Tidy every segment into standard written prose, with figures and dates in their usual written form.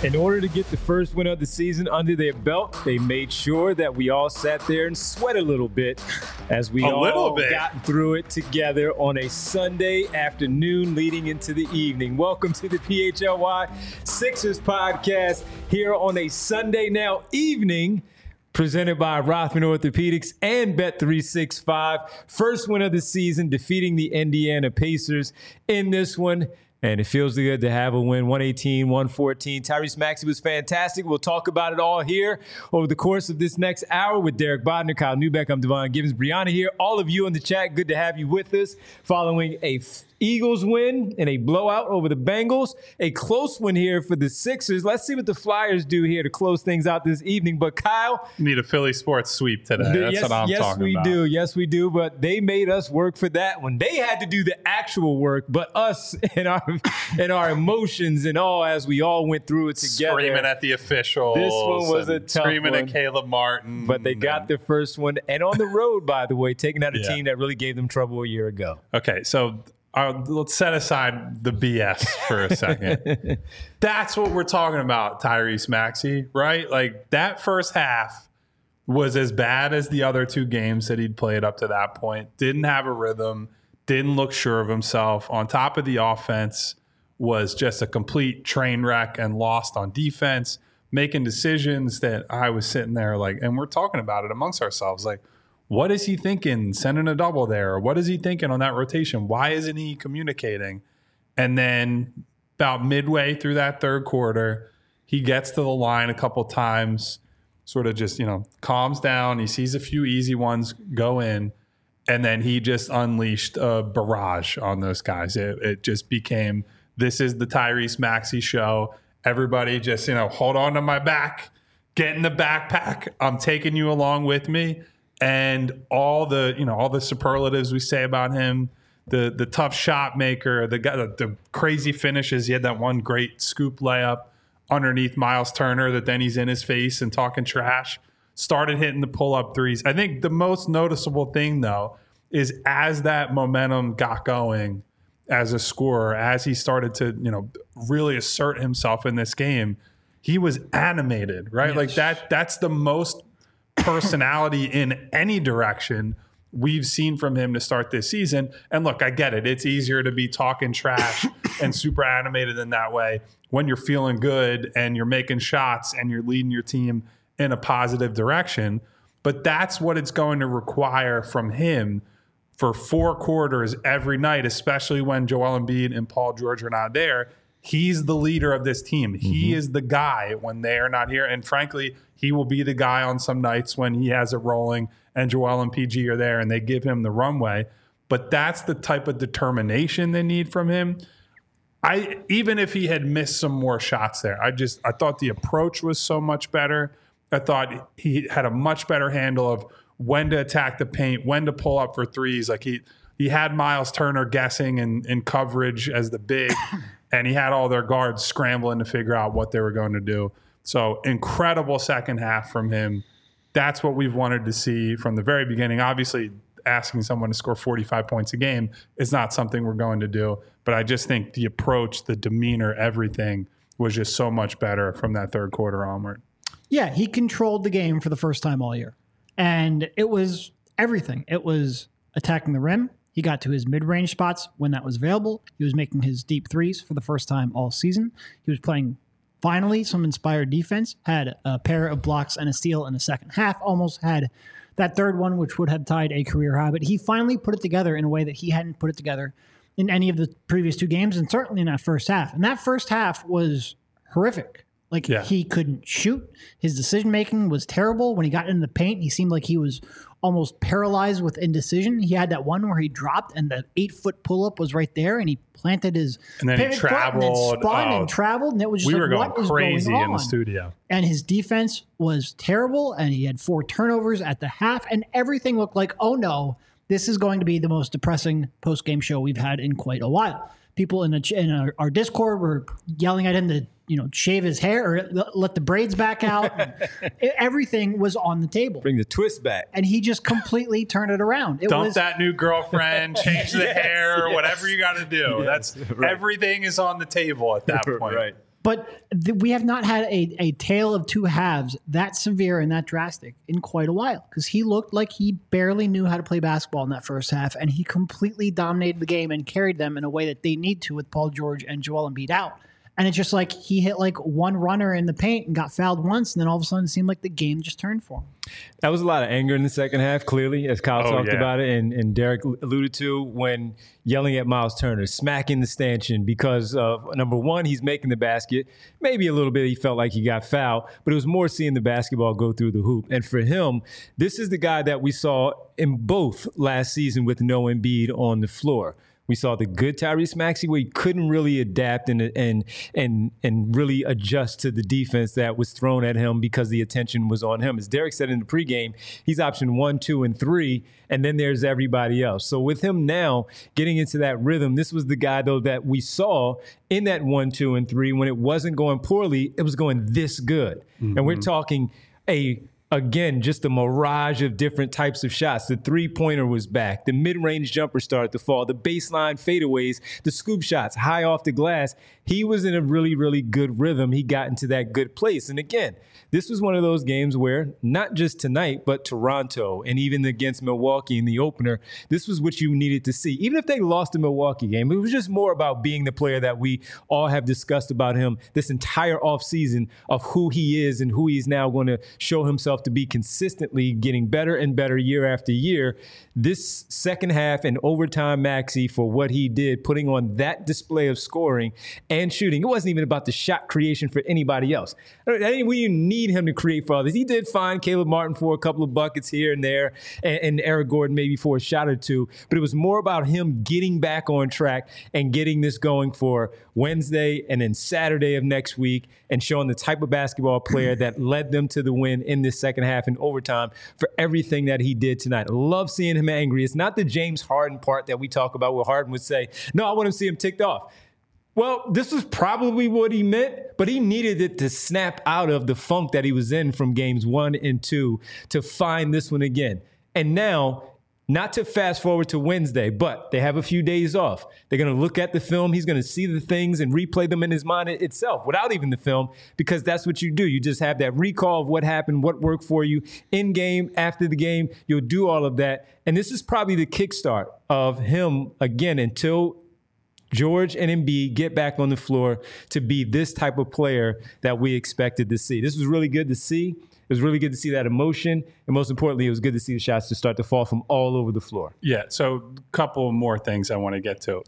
In order to get the first win of the season under their belt, they made sure that we all sat there and sweat a little bit as we all got through it together on a Sunday afternoon leading into the evening. Welcome to the PHLY Sixers podcast here on a Sunday now evening, presented by Rothman Orthopedics and Bet365. First win of the season, defeating the Indiana Pacers in this one. And it feels good to have a win, 118-114. Tyrese Maxey was fantastic. We'll talk about it all here over the course of this next hour with Derek Bodner, Kyle Newbeck. I'm Devon Givens. Brianna here. All of you in the chat, good to have you with us. Following a Eagles win and a blowout over the Bengals. A close one here for the Sixers. Let's see what the Flyers do here to close things out this evening. But Kyle, need a Philly sports sweep today. That's what I'm talking about. Yes, we do. But they made us work for that one. They had to do the actual work, but us and our emotions and all as we all went through it together. Screaming at the officials. This one was a tough screaming one. At Caleb Martin. But they got their first one. And on the road, by the way, taking out a team that really gave them trouble a year ago. Okay, so let's set aside the BS for a second. That's what we're talking about, Tyrese Maxey, right? Like, that first half was as bad as the other two games that he'd played up to that point. Didn't have a rhythm, didn't look sure of himself. On top of the offense, was just a complete train wreck and lost on defense, making decisions that I was sitting there like, and we're talking about it amongst ourselves, like, what is he thinking sending a double there? Or what is he thinking on that rotation? Why isn't he communicating? And then about midway through that third quarter, he gets to the line a couple times, sort of just, calms down. He sees a few easy ones go in, and then he just unleashed a barrage on those guys. It just became, this is the Tyrese Maxey show. Everybody just, hold on to my back, get in the backpack. I'm taking you along with me. And all the superlatives we say about him, the tough shot maker, the crazy finishes. He had that one great scoop layup underneath Miles Turner that then he's in his face and talking trash. Started hitting the pull-up threes. I think the most noticeable thing, though, is as that momentum got going as a scorer, as he started to really assert himself in this game, he was animated, right? Yes. Like that's the most personality in any direction we've seen from him to start this season. And look, I get it. It's easier to be talking trash and super animated in that way when you're feeling good and you're making shots and you're leading your team in a positive direction. But that's what it's going to require from him for 4 quarters every night, especially when Joel Embiid and Paul George are not there. He's the leader of this team. He is the guy when they are not here. And frankly, he will be the guy on some nights when he has it rolling and Joel and PG are there and they give him the runway. But that's the type of determination they need from him. Even if he had missed some more shots there, I thought the approach was so much better. I thought he had a much better handle of when to attack the paint, when to pull up for threes. Like he had Miles Turner guessing in coverage as the big, and he had all their guards scrambling to figure out what they were going to do. So incredible second half from him. That's what we've wanted to see from the very beginning. Obviously, asking someone to score 45 points a game is not something we're going to do. But I just think the approach, the demeanor, everything was just so much better from that third quarter onward. Yeah, he controlled the game for the first time all year. And it was everything. It was attacking the rim. He got to his mid-range spots when that was available. He was making his deep threes for the first time all season. He was playing, finally, some inspired defense. Had a pair of blocks and a steal in the second half. Almost had that third one, which would have tied a career high. But he finally put it together in a way that he hadn't put it together in any of the previous 2 games, and certainly in that first half. And that first half was horrific. He couldn't shoot. His decision-making was terrible. When he got into the paint, he seemed like he was almost paralyzed with indecision. He had that one where he dropped and the 8-foot pull-up was right there, and he planted his and then he traveled, and then spun and traveled, and it was just we were like, what is crazy going on? In the studio. And his defense was terrible, and he had 4 turnovers at the half, and everything looked like, oh no, this is going to be the most depressing post-game show we've had in quite a while. People in our Discord were yelling at him to shave his hair or let the braids back out. Everything was on the table. Bring the twist back. And he just completely turned it around. Dump that new girlfriend, change the hair, whatever you got to do. That's right. Everything is on the table at that point. Right. But we have not had a tale of two halves that severe and that drastic in quite a while, because he looked like he barely knew how to play basketball in that first half, and he completely dominated the game and carried them in a way that they need to with Paul George and Joel Embiid out. And it's just like he hit like one runner in the paint and got fouled once, and then all of a sudden it seemed like the game just turned for him. That was a lot of anger in the second half, clearly, as Kyle talked about it, and Derek alluded to, when yelling at Miles Turner, smacking the stanchion because of, number one, he's making the basket. Maybe a little bit he felt like he got fouled, but it was more seeing the basketball go through the hoop. And for him, this is the guy that we saw in both last season with no Embiid on the floor. We saw the good Tyrese Maxey where he couldn't really adapt and really adjust to the defense that was thrown at him because the attention was on him. As Derek said in the pregame, he's option 1, 2, and 3, and then there's everybody else. So with him now getting into that rhythm, this was the guy, though, that we saw in that 1, 2, and 3 when it wasn't going poorly, it was going this good. Mm-hmm. And we're talking again, just a mirage of different types of shots. The three-pointer was back. The mid-range jumper started to fall. The baseline fadeaways, the scoop shots, high off the glass. He was in a really, really good rhythm. He got into that good place. And again, this was one of those games where not just tonight, but Toronto and even against Milwaukee in the opener, this was what you needed to see. Even if they lost the Milwaukee game, it was just more about being the player that we all have discussed about him this entire offseason of who he is and who he's now going to show himself to be consistently getting better and better year after year. This second half and overtime Maxey for what he did, putting on that display of scoring and shooting. It wasn't even about the shot creation for anybody else. We need him to create for others. He did find Caleb Martin for a couple of buckets here and there, and Eric Gordon maybe for a shot or two, but it was more about him getting back on track and getting this going for Wednesday and then Saturday of next week, and showing the type of basketball player that led them to the win in this second half and overtime for everything that he did tonight. I love seeing him angry. It's not the James Harden part that we talk about where Harden would say, no, I want to see him ticked off. Well, this was probably what he meant, but he needed it to snap out of the funk that he was in from games 1 and 2 to find this one again. And now, not to fast forward to Wednesday, but they have a few days off. They're going to look at the film. He's going to see the things and replay them in his mind itself without even the film, because that's what you do. You just have that recall of what happened, what worked for you in game, after the game. You'll do all of that. And this is probably the kickstart of him, again, until George and Embiid get back on the floor to be this type of player that we expected to see. This was really good to see. It was really good to see that emotion. And most importantly, it was good to see the shots to start to fall from all over the floor. Yeah, so a couple more things I want to get to.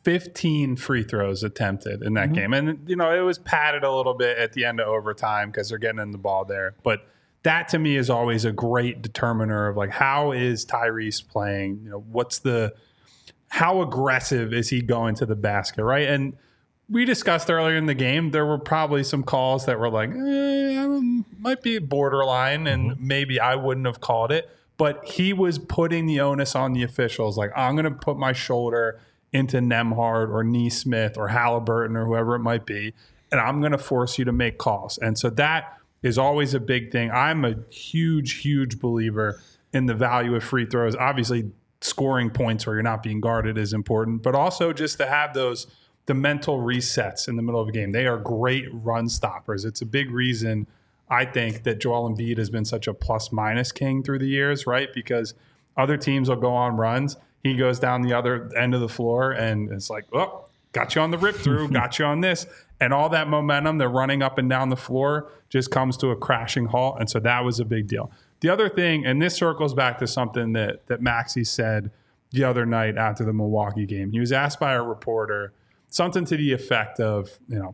15 free throws attempted in that game. And, you know, it was padded a little bit at the end of overtime because they're getting in the ball there. But that to me is always a great determiner of, like, how is Tyrese playing? You know, how aggressive is he going to the basket, right? And we discussed earlier in the game, there were probably some calls that were like, might be borderline, and maybe I wouldn't have called it. But he was putting the onus on the officials. Like, I'm going to put my shoulder into Nembhard or Nesmith or Halliburton or whoever it might be, and I'm going to force you to make calls. And so that is always a big thing. I'm a huge, huge believer in the value of free throws. Obviously, scoring points where you're not being guarded is important, but also just to have the mental resets in the middle of a game. They are great run stoppers. It's a big reason, I think, that Joel Embiid has been such a plus-minus king through the years, right? Because other teams will go on runs. He goes down the other end of the floor, and it's like, oh, got you on the rip-through, got you on this. And all that momentum, they're running up and down the floor, just comes to a crashing halt. And so that was a big deal. The other thing, and this circles back to something that Maxey said the other night after the Milwaukee game. He was asked by a reporter something to the effect of, you know,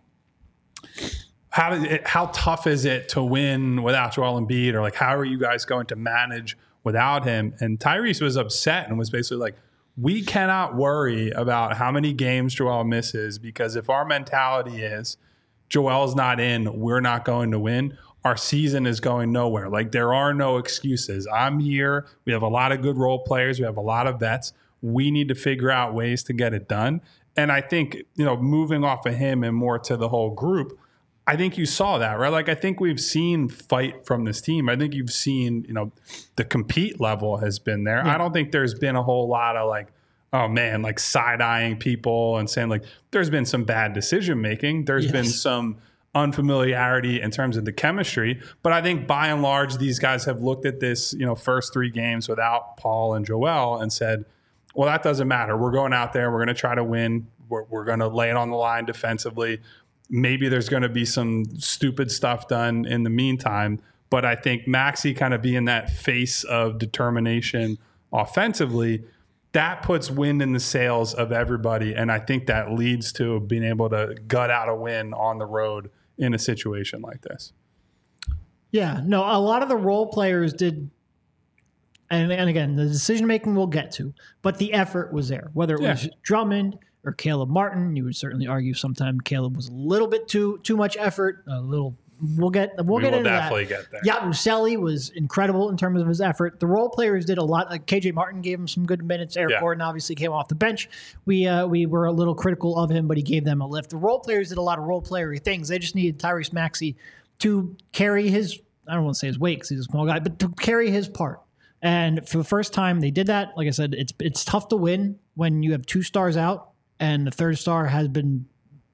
how tough is it to win without Joel Embiid, or like, how are you guys going to manage without him? And Tyrese was upset and was basically like, we cannot worry about how many games Joel misses, because if our mentality is Joel's not in, we're not going to win, our season is going nowhere. Like, there are no excuses. I'm here. We have a lot of good role players. We have a lot of vets. We need to figure out ways to get it done. And I think, you know, moving off of him and more to the whole group, I think you saw that, right? Like, I think we've seen fight from this team. I think you've seen, you know, the compete level has been there. Yeah. I don't think there's been a whole lot of like, oh man, like side-eyeing people and saying like there's been some bad decision making. There's been some unfamiliarity in terms of the chemistry. But I think by and large, these guys have looked at this, first 3 games without Paul and Joel and said, well, that doesn't matter. We're going out there. We're going to try to win. We're going to lay it on the line defensively. Maybe there's going to be some stupid stuff done in the meantime. But I think Maxey kind of being that face of determination offensively, that puts wind in the sails of everybody. And I think that leads to being able to gut out a win on the road in a situation like this. Yeah, no, a lot of the role players did. And again, the decision-making we'll get to, but the effort was there. Whether it was Drummond or Caleb Martin, you would certainly argue sometimes Caleb was a little bit too much effort, a little. We'll get into definitely that. Get there. Yabusele was incredible in terms of his effort. The role players did a lot. Like KJ Martin gave him some good minutes. Eric Gordon obviously came off the bench. We were a little critical of him, but he gave them a lift. The role players did a lot of role playery things. They just needed Tyrese Maxey to carry his, I don't want to say his weight because he's a small guy, but to carry his part. And for the first time, they did that. Like I said, it's tough to win when you have 2 stars out and the third star has been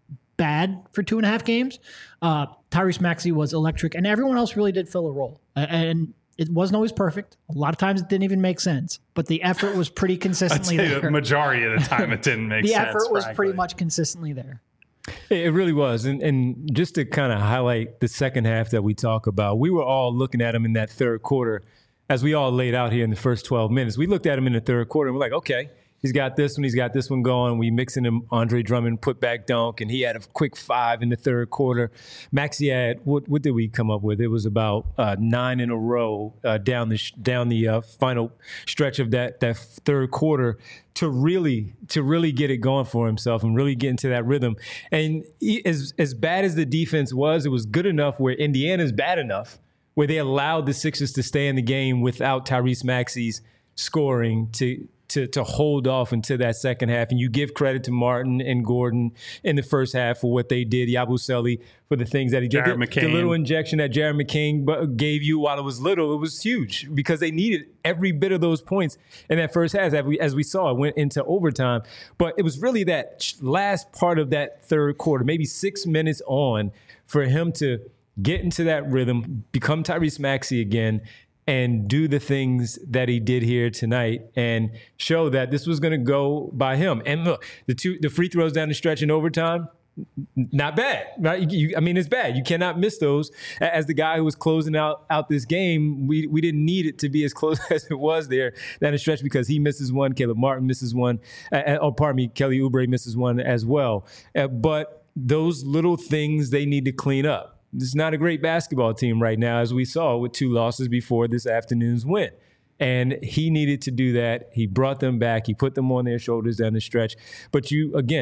bad for 2.5 games. Tyrese Maxey was electric, and everyone else really did fill a role. And it wasn't always perfect. A lot of times it didn't even make sense, but the effort was pretty consistently there. The majority of the time it didn't make sense. The effort was pretty much consistently there. It really was. And just to kind of highlight the second half that we talk about, we were all looking at him in that third quarter, as we all laid out here in the first 12 minutes. We looked at him in the third quarter and we're like, okay, he's got this one going. We mixing him Andre Drummond put back dunk, and he had a quick 5 in the third quarter. Maxey had what did we come up with? It was about 9 in a row down the final stretch of that third quarter to really get it going for himself and really get into that rhythm. And as bad as the defense was, it was good enough where Indiana's bad enough where they allowed the Sixers to stay in the game without Tyrese Maxey's scoring to hold off into that second half. And you give credit to Martin and Gordon in the first half for what they did. Yabusele for the things that he did. The little injection that Jared McCain gave you while it was little, it was huge because they needed every bit of those points in that first half. As we saw, it went into overtime. But it was really that last part of that third quarter, maybe 6 minutes on, for him to get into that rhythm, become Tyrese Maxey again, and do the things that he did here tonight and show that this was going to go by him. And look, the free throws down the stretch in overtime, not bad. Right? It's bad. You cannot miss those. As the guy who was closing out this game, we didn't need it to be as close as it was there down the stretch because he misses one, Caleb Martin misses one, Kelly Oubre misses one as well. But those little things they need to clean up. This is not a great basketball team right now, as we saw with 2 losses before this afternoon's win. And he needed to do that. He brought them back. He put them on their shoulders down the stretch. But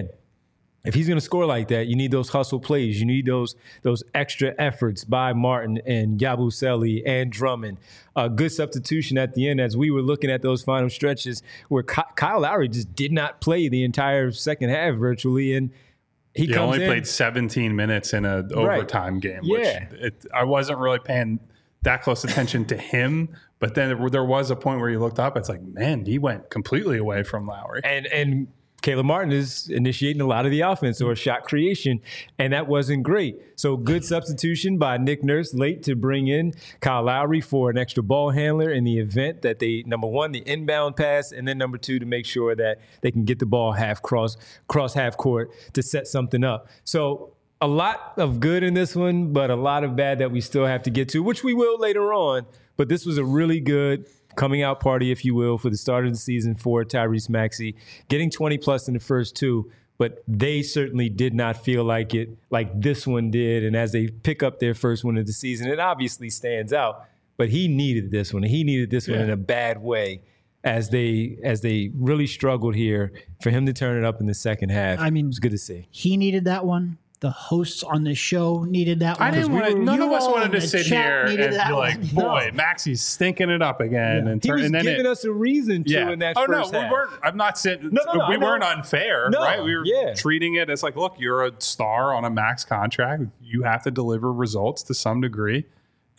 if he's going to score like that, you need those hustle plays. You need those extra efforts by Martin and Yabusele and Drummond. A good substitution at the end as we were looking at those final stretches where Kyle Lowry just did not play the entire second half virtually. And he only played 17 minutes in an overtime game, which I wasn't really paying that close attention to him. But then there was a point where you looked up. It's like, man, he went completely away from Lowry. And Caleb Martin is initiating a lot of the offense or shot creation, and that wasn't great. So good substitution by Nick Nurse late to bring in Kyle Lowry for an extra ball handler in the event that they, number one, the inbound pass, and then number 2, to make sure that they can get the ball cross half court to set something up. So a lot of good in this one, but a lot of bad that we still have to get to, which we will later on. But this was a really good coming out party, if you will, for the start of the season for Tyrese Maxey, getting 20-plus in the first 2, but they certainly did not feel like it like this one did. And as they pick up their first win of the season, it obviously stands out, but he needed this one. He needed this one in a bad way as they really struggled here. For him to turn it up in the second half, it was good to see. He needed that one. The hosts on this show needed that one. None of us wanted to sit here and be like, boy, Maxey's stinking it up again. Yeah. He was giving us a reason to in that first half. I'm not saying we weren't unfair, right? We were treating it as like, look, you're a star on a max contract. You have to deliver results to some degree.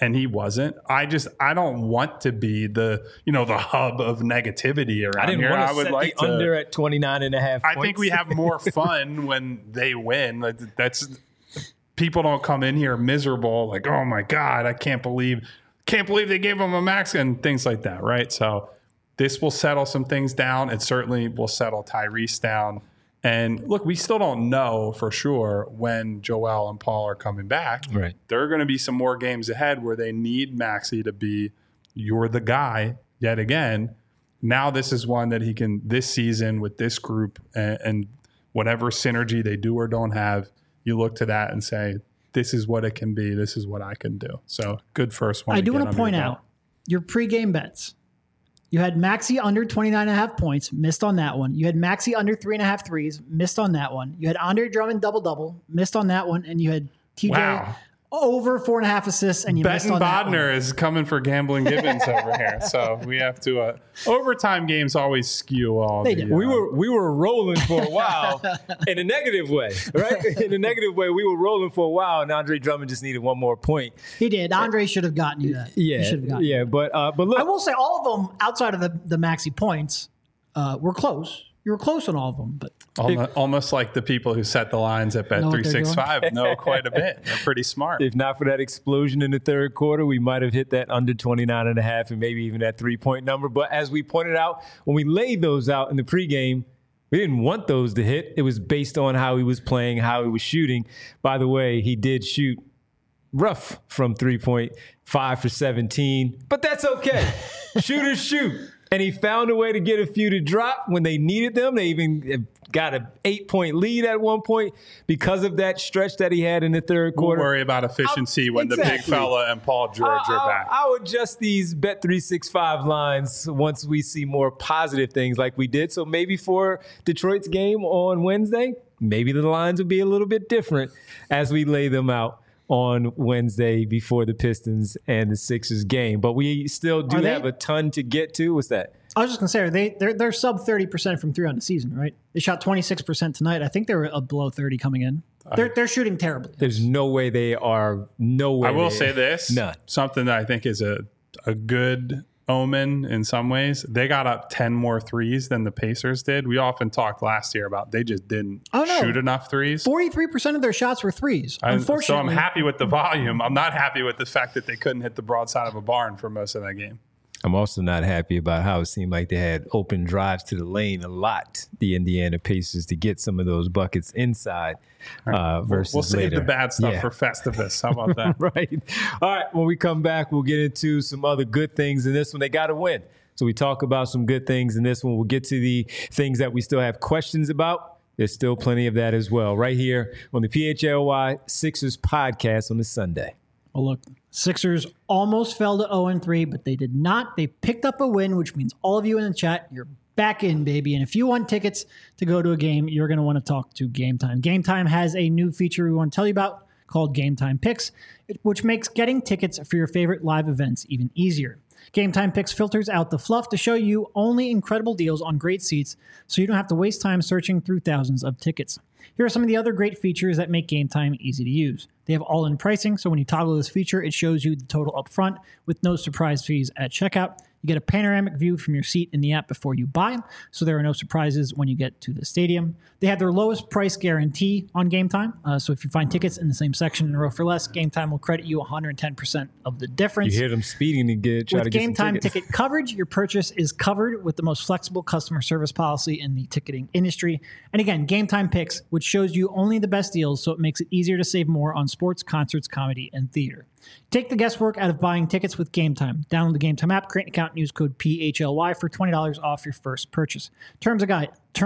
and he wasn't. I don't want to be the hub of negativity around here. I would like to under at 29.5 points. I think we have more fun when they win. That's people don't come in here miserable, like, oh my God, I can't believe they gave him a max and things like that, right? So this will settle some things down. It certainly will settle Tyrese down. And look, we still don't know for sure when Joel and Paul are coming back. Right. There are going to be some more games ahead where they need Maxey to be, you're the guy yet again. Now this is one that he can, this season with this group and whatever synergy they do or don't have, you look to that and say, this is what it can be. This is what I can do. So good first one. I do want to point out your pregame bets. You had Maxey under 29.5 points, missed on that one. You had Maxey under 3.5 threes, missed on that one. You had Andre Drummond double-double, missed on that one. And you had TJ over 4.5 assists, and you missed on that one. Bodner is coming for Gambling Gibbons over here. So we have to overtime games always skew all. They did. We were rolling for a while in a negative way, right? In a negative way, we were rolling for a while, and Andre Drummond just needed one more point. He did. Andre should have gotten you that. Yeah, but look, I will say all of them outside of the Maxey points were close. You were close on all of them, but almost like the people who set the lines at Bet365 know quite a bit. They're pretty smart. If not for that explosion in the third quarter, we might have hit that under 29.5 and maybe even that 3-point number. But as we pointed out, when we laid those out in the pregame, we didn't want those to hit. It was based on how he was playing, how he was shooting. By the way, he did shoot rough from 3-point, 5 for 17, but that's okay. Shooters shoot. And he found a way to get a few to drop when they needed them. They even got an 8-point lead at one point because of that stretch that he had in the third quarter. We'll worry about efficiency when the big fella and Paul George are back. I'll adjust these Bet365 lines once we see more positive things like we did. So maybe for Detroit's game on Wednesday, maybe the lines will be a little bit different as we lay them out on Wednesday before the Pistons and the Sixers game. But we still do have a ton to get to. What's that? I was just going to say, they're sub 30% from three on the season, right? They shot 26% tonight. I think they were below 30 coming in. They're shooting terribly. There's no way they are. No way. I will say this. None. Something that I think is a good omen in some ways. They got up 10 more threes than the Pacers did. We often talked last year about they just didn't shoot enough threes. 43% of their shots were threes. Unfortunately. So I'm happy with the volume. I'm not happy with the fact that they couldn't hit the broadside of a barn for most of that game. I'm also not happy about how it seemed like they had open drives to the lane a lot, the Indiana Pacers, to get some of those buckets inside versus we'll save later. The bad stuff for Festivus. How about that? Right. All right. When we come back, we'll get into some other good things in this one. They got to win. So we talk about some good things in this one. We'll get to the things that we still have questions about. There's still plenty of that as well right here on the PHLY Sixers podcast on this Sunday. Well, look, Sixers almost fell to 0-3, but they did not. They picked up a win, which means all of you in the chat, you're back in, baby. And if you want tickets to go to a game, you're going to want to talk to Game Time. Game Time has a new feature we want to tell you about called Game Time Picks, which makes getting tickets for your favorite live events even easier. Game Time Picks filters out the fluff to show you only incredible deals on great seats, so you don't have to waste time searching through thousands of tickets. Here are some of the other great features that make Game Time easy to use. They have all-in pricing, so when you toggle this feature, it shows you the total up front with no surprise fees at checkout. You get a panoramic view from your seat in the app before you buy, so there are no surprises when you get to the stadium. They have their lowest price guarantee on Game Time, so if you find tickets in the same section in a row for less, Game Time will credit you 110% of the difference. You hear them speeding to try to get some tickets. With Game Time ticket coverage, your purchase is covered with the most flexible customer service policy in the ticketing industry. And again, Game Time Picks, which shows you only the best deals, so it makes it easier to save more on sports, concerts, comedy, and theater. Take the guesswork out of buying tickets with Game Time. Download the Game Time app, create an account, and use code PHLY for $20 off your first purchase. Terms apply.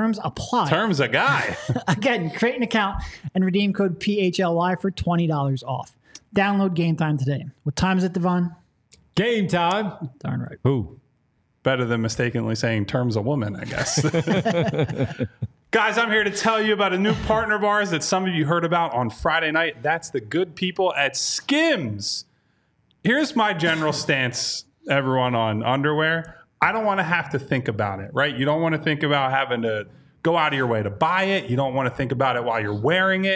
Terms a guy. Again, create an account and redeem code PHLY for $20 off. Download Game Time today. What time is it, Devon? Game time. Darn right. Who? Better than mistakenly saying terms a woman, I guess. Guys, I'm here to tell you about a new partner of ours that some of you heard about on Friday night. That's the good people at Skims. Here's my general stance, everyone, on underwear. I don't want to have to think about it, right? You don't want to think about having to go out of your way to buy it. You don't want to think about it while you're wearing it.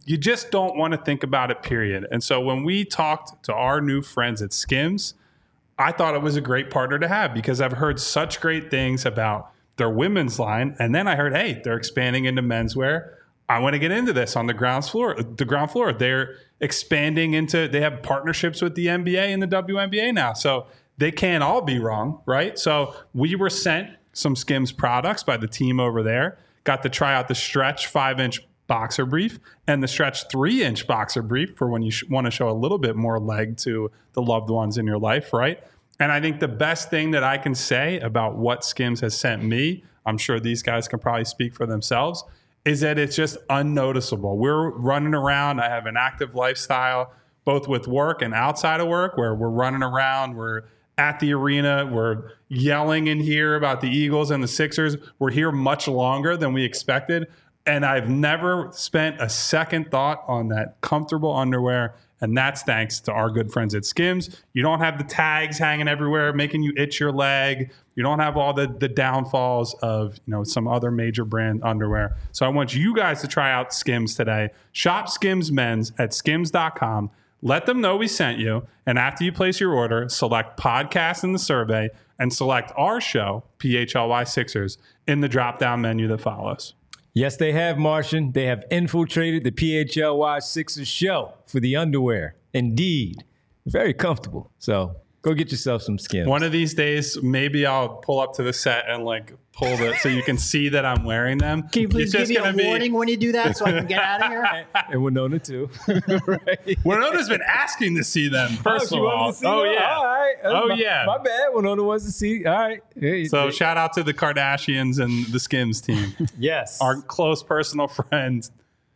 you just don't want to think about it, period. And so when we talked to our new friends at Skims, I thought it was a great partner to have because I've heard such great things about their women's line. And then I heard, hey, they're expanding into menswear. I want to get into this on the ground floor. They're expanding into, they have partnerships with the NBA and the WNBA now. So they can't all be wrong, right? So we were sent some Skims products by the team over there. Got to try out the Stretch 5-inch boxer brief and the Stretch 3-inch boxer brief for when you want to show a little bit more leg to the loved ones in your life, right? And I think the best thing that I can say about what Skims has sent me, I'm sure these guys can probably speak for themselves, is that it's just unnoticeable. We're running around. I have an active lifestyle, both with work and outside of work, where we're running around. We're at the arena. We're yelling in here about the Eagles and the Sixers. We're here much longer than we expected. And I've never spent a second thought on that comfortable underwear. And that's thanks to our good friends at Skims. You don't have the tags hanging everywhere, making you itch your leg. You don't have all the downfalls of some other major brand underwear. So I want you guys to try out Skims today. Shop Skims Men's at skims.com. Let them know we sent you. And after you place your order, select podcast in the survey and select our show, PHLY Sixers, in the drop-down menu that follows. Yes, they have, Martian. They have infiltrated the PHLY Sixers show for the underwear. Indeed. Very comfortable. So go get yourself some Skims. One of these days, maybe I'll pull up to the set and pull it so you can see that I'm wearing them. Can you please give me a warning when you do that so I can get out of here? And Winona too. Right. Winona's been asking to see them, first of all. Oh, yeah. All right. Yeah. My bad. Winona wants to see. All right. Hey, so shout out to the Kardashians and the Skims team. Yes. Our close personal friend,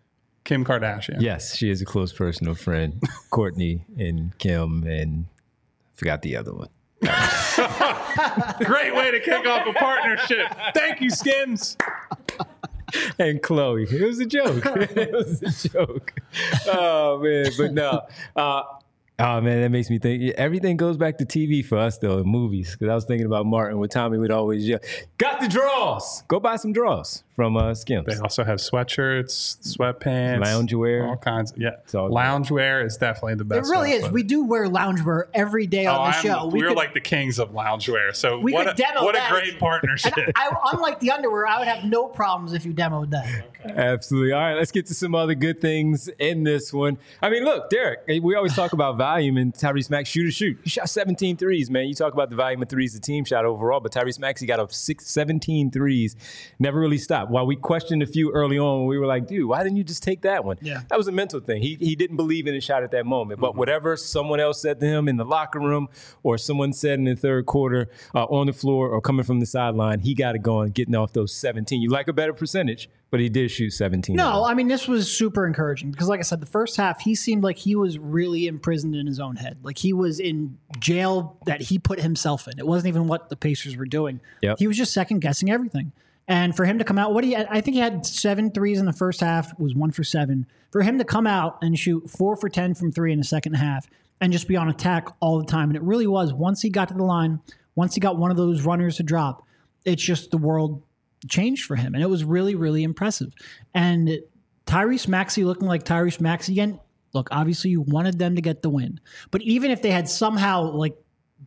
Kim Kardashian. Yes, she is a close personal friend. Courtney and Kim and forgot the other one. Great way to kick off a partnership. Thank you, Skims. And Chloe. It was a joke. It was a joke. Oh, man. But no. Oh, man, that makes me think. Everything goes back to TV for us, though, in movies. Because I was thinking about Martin with Tommy would always yell, got the draws. Go buy some draws from Skims. They also have sweatshirts, sweatpants. Loungewear. All kinds. Yeah. Loungewear is definitely the best. It really is. We do wear loungewear every day on the show. We're like the kings of loungewear. So what a great partnership. Unlike the underwear, I would have no problems if you demoed that. Okay. Absolutely. All right, let's get to some other good things in this one. I mean, look, Derek, we always talk about volume and Tyrese Maxey shoot. He shot 17 threes, man. You talk about the volume of threes the team shot overall, but Tyrese Maxey got up 17 threes, never really stopped. While we questioned a few early on, we were like, dude, why didn't you just take that one? Yeah. That was a mental thing. He didn't believe in his shot at that moment, but whatever someone else said to him in the locker room or someone said in the third quarter on the floor or coming from the sideline, he got it going, getting off those 17. You like a better percentage, but he did shoot 17. No, I mean, this was super encouraging because, like I said, the first half, he seemed like he was really imprisoned in his own head. Like he was in jail that he put himself in. It wasn't even what the Pacers were doing. Yep. He was just second guessing everything. And for him to come out, I think he had 7 threes in the first half, was 1 for 7. For him to come out and shoot 4 for 10 from 3 in the second half and just be on attack all the time. And it really was, once he got to the line, once he got one of those runners to drop, it's just the world changed for him. And it was really, really impressive. And Tyrese Maxey looking like Tyrese Maxey again, look, obviously you wanted them to get the win. But even if they had somehow, like,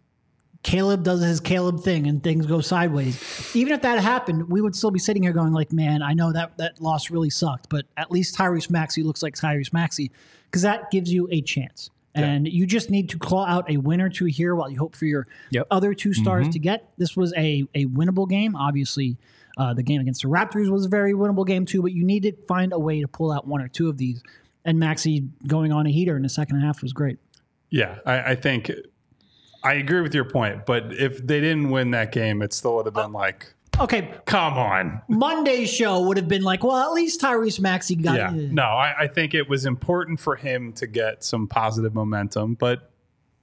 Caleb does his Caleb thing and things go sideways, even if that happened, we would still be sitting here going like, man, I know that loss really sucked, but at least Tyrese Maxey looks like Tyrese Maxey because that gives you a chance. And you just need to claw out a win or two here while you hope for your other two stars to get. This was a winnable game. Obviously, the game against the Raptors was a very winnable game too, but you need to find a way to pull out one or two of these. And Maxey going on a heater in the second half was great. Yeah, I think I agree with your point, but if they didn't win that game, it still would have been like, okay, come on. Monday's show would have been like, well, at least Tyrese Maxey got it. No, I think it was important for him to get some positive momentum, but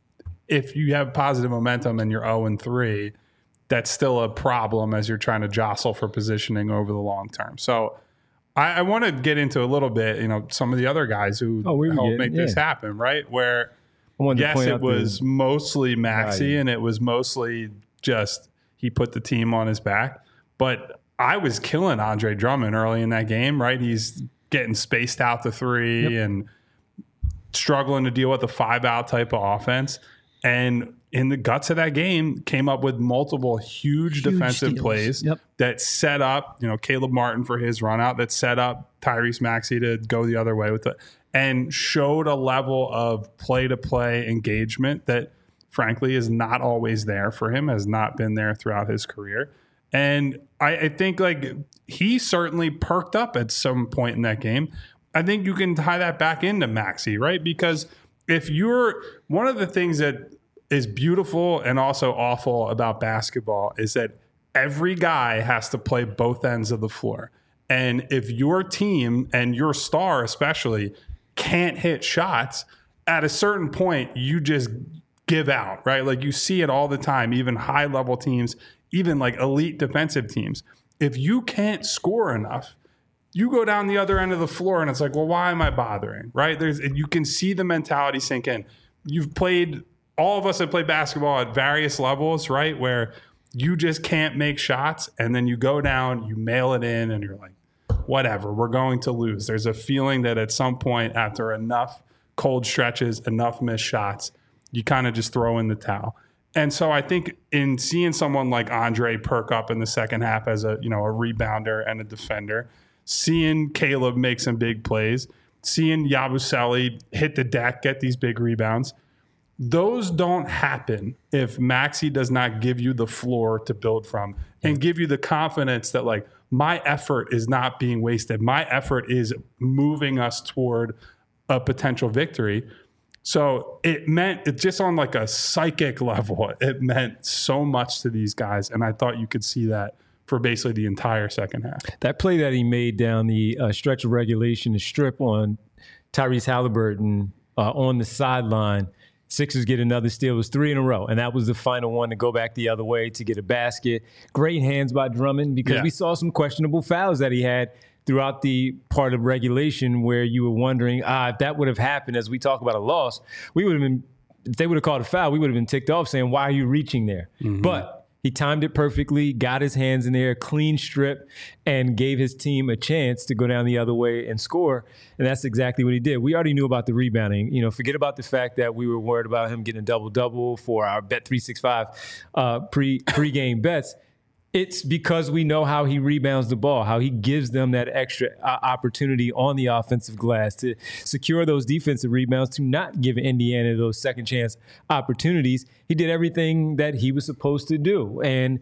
if you have positive momentum and you're 0-3, that's still a problem as you're trying to jostle for positioning over the long term. So I want to get into a little bit, some of the other guys who helped make this happen, right? Where yes, it was mostly Maxey and it was mostly just he put the team on his back. But I was killing Andre Drummond early in that game, right? He's getting spaced out to three and struggling to deal with a 5-out type of offense. And in the guts of that game, came up with multiple huge defensive steals. plays that set up, Caleb Martin for his run out, that set up Tyrese Maxey to go the other way with it, and showed a level of play-to-play engagement that, frankly, is not always there for him, has not been there throughout his career. And I think he certainly perked up at some point in that game. I think you can tie that back into Maxey, right? Because if you're one of the things that is beautiful and also awful about basketball is that every guy has to play both ends of the floor. And if your team and your star especially can't hit shots, at a certain point, you just give out, right? Like you see it all the time, even high level teams, even like elite defensive teams. If you can't score enough, you go down the other end of the floor and it's like, well, why am I bothering, right? You can see the mentality sink in. All of us have played basketball at various levels, right? Where you just can't make shots and then you go down, you mail it in and you're like, whatever, we're going to lose. There's a feeling that at some point after enough cold stretches, enough missed shots, you kind of just throw in the towel. And so I think in seeing someone like Andre perk up in the second half as a rebounder and a defender, seeing Caleb make some big plays, seeing Yabusele hit the deck, get these big rebounds, those don't happen if Maxey does not give you the floor to build from and give you the confidence that like my effort is not being wasted. My effort is moving us toward a potential victory. So it just on like a psychic level, it meant so much to these guys. And I thought you could see that for basically the entire second half. That play that he made down the stretch of regulation, the strip on Tyrese Halliburton on the sideline, Sixers get another steal. It was 3 in a row, and that was the final one to go back the other way to get a basket. Great hands by Drummond because we saw some questionable fouls that he had throughout the part of regulation where you were wondering, if that would have happened as we talk about a loss, we would have been, if they would have called a foul, we would have been ticked off saying, why are you reaching there? Mm-hmm. But he timed it perfectly, got his hands in there, clean strip, and gave his team a chance to go down the other way and score. And that's exactly what he did. We already knew about the rebounding. Forget about the fact that we were worried about him getting a double-double for our Bet365 pre-game bets. It's because we know how he rebounds the ball, how he gives them that extra opportunity on the offensive glass to secure those defensive rebounds, to not give Indiana those second chance opportunities. He did everything that he was supposed to do. And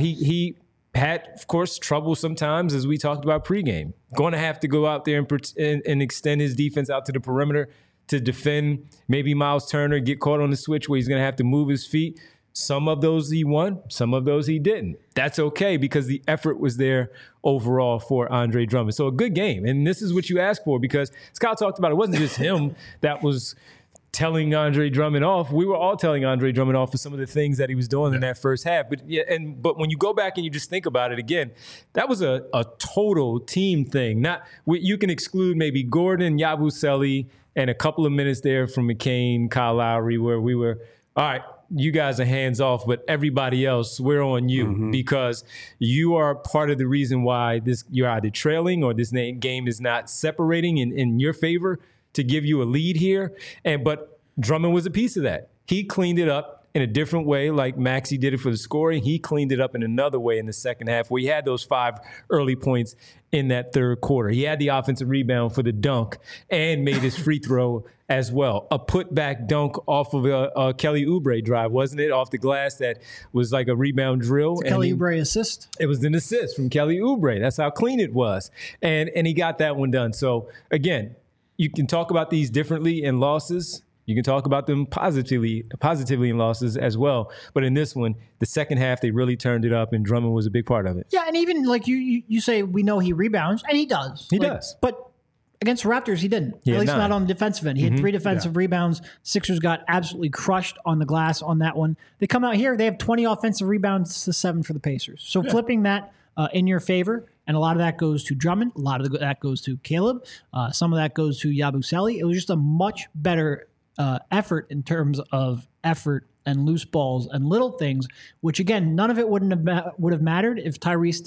he had, of course, trouble sometimes, as we talked about pregame. Going to have to go out there and extend his defense out to the perimeter to defend maybe Miles Turner, get caught on the switch where he's going to have to move his feet. Some of those he won, some of those he didn't. That's okay because the effort was there overall for Andre Drummond. So a good game. And this is what you ask for because Scott talked about it wasn't just him that was telling Andre Drummond off. We were all telling Andre Drummond off for some of the things that he was doing in that first half. But when you go back and you just think about it again, that was a total team thing. You can exclude maybe Gordon, Yabusele, and a couple of minutes there from McCain, Kyle Lowry, where we were, all right, you guys are hands off, but everybody else, we're on you because you are part of the reason why you're either trailing or this game is not separating in your favor to give you a lead here. But Drummond was a piece of that. He cleaned it up in a different way, like Maxey did it for the scoring. He cleaned it up in another way in the second half where he had those 5 early points in that third quarter. He had the offensive rebound for the dunk and made his free throw as well. A putback dunk off of a Kelly Oubre drive, wasn't it? Off the glass that was like a rebound drill. Kelly Oubre assist? It was an assist from Kelly Oubre. That's how clean it was. And he got that one done. So, again, you can talk about these differently in losses. You can talk about them positively in losses as well. But in this one, the second half, they really turned it up, and Drummond was a big part of it. Yeah, and even like you say, we know he rebounds, and he does. He does. But against the Raptors, he didn't. At least not on the defensive end. He had 3 defensive rebounds. Sixers got absolutely crushed on the glass on that one. They come out here, they have 20 offensive rebounds to 7 for the Pacers. So flipping that in your favor, and a lot of that goes to Drummond. A lot of that goes to Caleb. Some of that goes to Yabusele. It was just a much better effort in terms of effort and loose balls and little things, which again, none of it would have mattered if Tyrese didn't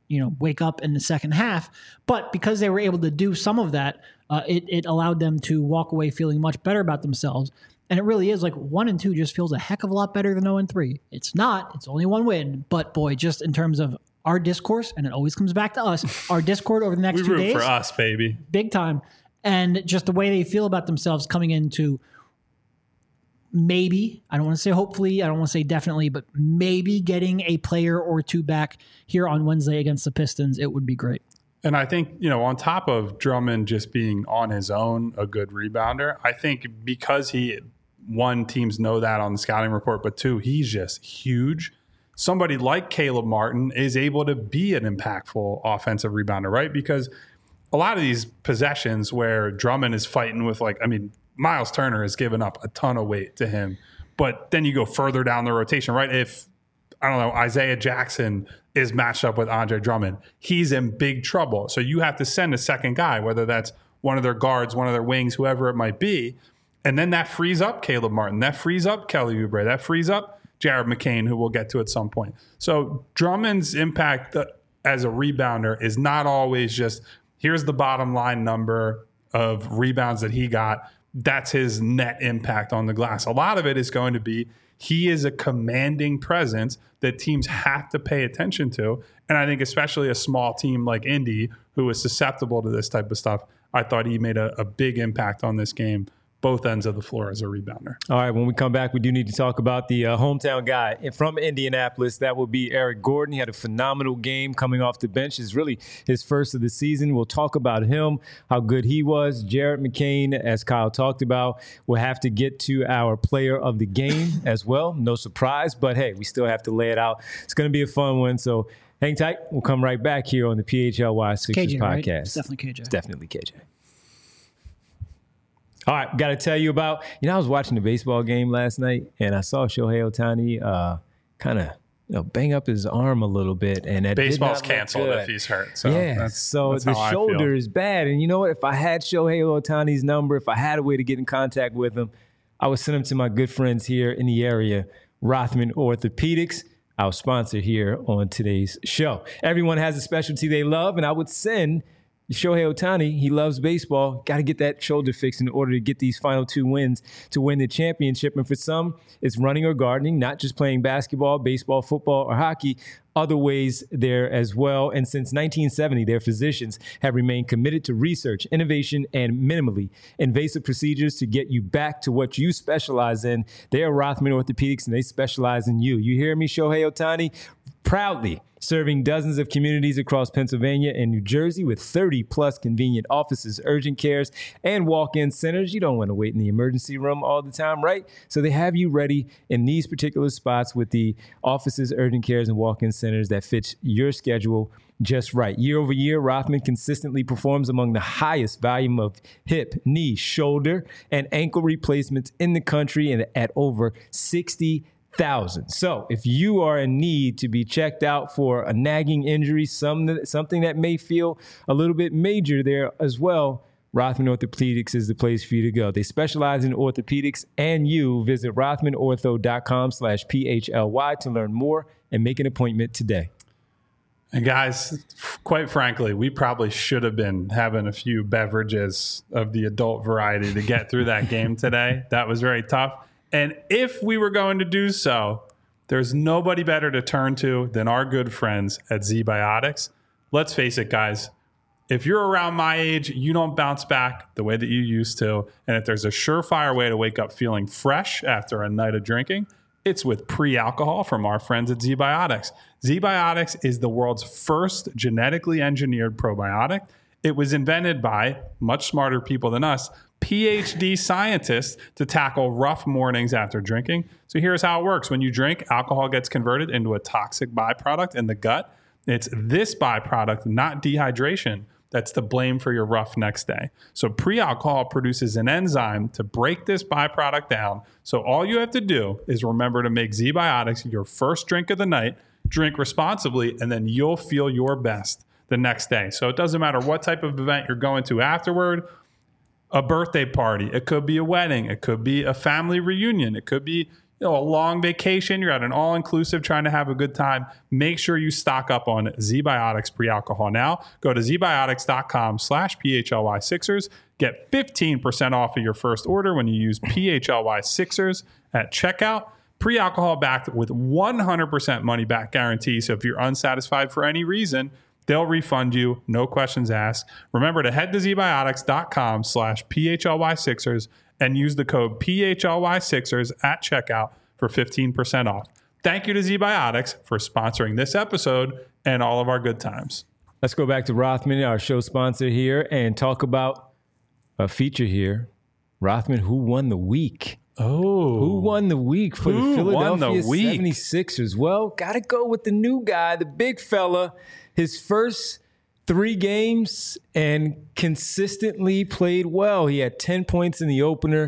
wake up in the second half. But because they were able to do some of that, it allowed them to walk away feeling much better about themselves. And it really is like 1-2 just feels a heck of a lot better than 0-3. It's not. It's only one win. But boy, just in terms of our discourse, and it always comes back to us, our Discord over the next 2 days. We root for us, baby. Big time. And just the way they feel about themselves coming into maybe, I don't want to say hopefully, I don't want to say definitely, but maybe getting a player or two back here on Wednesday against the Pistons, it would be great. And I think, on top of Drummond just being on his own a good rebounder, I think because teams know that on the scouting report, but two, he's just huge. Somebody like Caleb Martin is able to be an impactful offensive rebounder, right? Because a lot of these possessions where Drummond is fighting with Miles Turner has given up a ton of weight to him, but then you go further down the rotation, right? If, Isaiah Jackson is matched up with Andre Drummond, he's in big trouble. So you have to send a second guy, whether that's one of their guards, one of their wings, whoever it might be. And then that frees up Caleb Martin. That frees up Kelly Oubre. That frees up Jared McCain, who we'll get to at some point. So Drummond's impact as a rebounder is not always just, here's the bottom line number of rebounds that he got. That's his net impact on the glass. A lot of it is going to be he is a commanding presence that teams have to pay attention to. And I think especially a small team like Indy, who is susceptible to this type of stuff, I thought he made a big impact on this game, both ends of the floor as a rebounder. All right, when we come back, we do need to talk about the hometown guy from Indianapolis. That will be Eric Gordon. He had a phenomenal game coming off the bench. It's really his first of the season. We'll talk about him, how good he was. Jared McCain, as Kyle talked about, we'll have to get to our player of the game as well. No surprise, but hey, we still have to lay it out. It's going to be a fun one, so hang tight. We'll come right back here on the PHLY Sixers KJ, podcast. Right? It's definitely KJ. It's definitely KJ. All right, got to tell you about, I was watching the baseball game last night, and I saw Shohei Ohtani kind of bang up his arm a little bit. And that baseball's canceled if he's hurt. So that's the shoulder is bad. And you know what? If I had Shohei Ohtani's number, if I had a way to get in contact with him, I would send him to my good friends here in the area, Rothman Orthopedics, our sponsor here on today's show. Everyone has a specialty they love, and I would send Shohei Ohtani, he loves baseball, got to get that shoulder fixed in order to get these final 2 wins to win the championship. And for some, it's running or gardening, not just playing basketball, baseball, football, or hockey. Other ways there as well. And since 1970, their physicians have remained committed to research, innovation, and minimally invasive procedures to get you back to what you specialize in. They are Rothman Orthopedics, and they specialize in you. You hear me, Shohei Ohtani? Proudly serving dozens of communities across Pennsylvania and New Jersey with 30-plus convenient offices, urgent cares, and walk-in centers. You don't want to wait in the emergency room all the time, right? So they have you ready in these particular spots with the offices, urgent cares, and walk-in centers that fits your schedule just right. Year over year, Rothman consistently performs among the highest volume of hip, knee, shoulder, and ankle replacements in the country, and at over 60,000. So if you are in need to be checked out for a nagging injury, something that may feel a little bit major there as well, Rothman Orthopedics is the place for you to go. They specialize in orthopedics, and you visit rothmanortho.com/PHLY to learn more and make an appointment today. And guys, quite frankly, we probably should have been having a few beverages of the adult variety to get through that game today. That was very tough. And if we were going to do so, there's nobody better to turn to than our good friends at ZBiotics. Let's face it, guys. If you're around my age, you don't bounce back the way that you used to. And if there's a surefire way to wake up feeling fresh after a night of drinking, it's with pre-alcohol from our friends at ZBiotics. ZBiotics is the world's first genetically engineered probiotic. It was invented by much smarter people than us, PhD scientists, to tackle rough mornings after drinking. So here's how it works. When you drink, alcohol gets converted into a toxic byproduct in the gut. It's this byproduct, not dehydration, that's to blame for your rough next day. So pre-alcohol produces an enzyme to break this byproduct down. So all you have to do is remember to make ZBiotics your first drink of the night, drink responsibly, and then you'll feel your best the next day. So it doesn't matter what type of event you're going to afterward, a birthday party, it could be a wedding, it could be a family reunion, it could be a long vacation, you're at an all-inclusive trying to have a good time, make sure you stock up on ZBiotics pre-alcohol now. Go to zbiotics.com/PHLY6ers. Get 15% off of your first order when you use PHLY6ers at checkout. Pre-alcohol backed with 100% money back guarantee. So if you're unsatisfied for any reason, they'll refund you. No questions asked. Remember to head to zbiotics.com/PHLY6ers and use the code PHLY6ers at checkout for 15% off. Thank you to ZBiotics for sponsoring this episode and all of our good times. Let's go back to Rothman, our show sponsor here, and talk about a feature here. Rothman, who won the week? Oh. Who won the week for the Philadelphia 76ers? Well, got to go with the new guy, the big fella. His first 3 games and consistently played well. He had 10 points in the opener,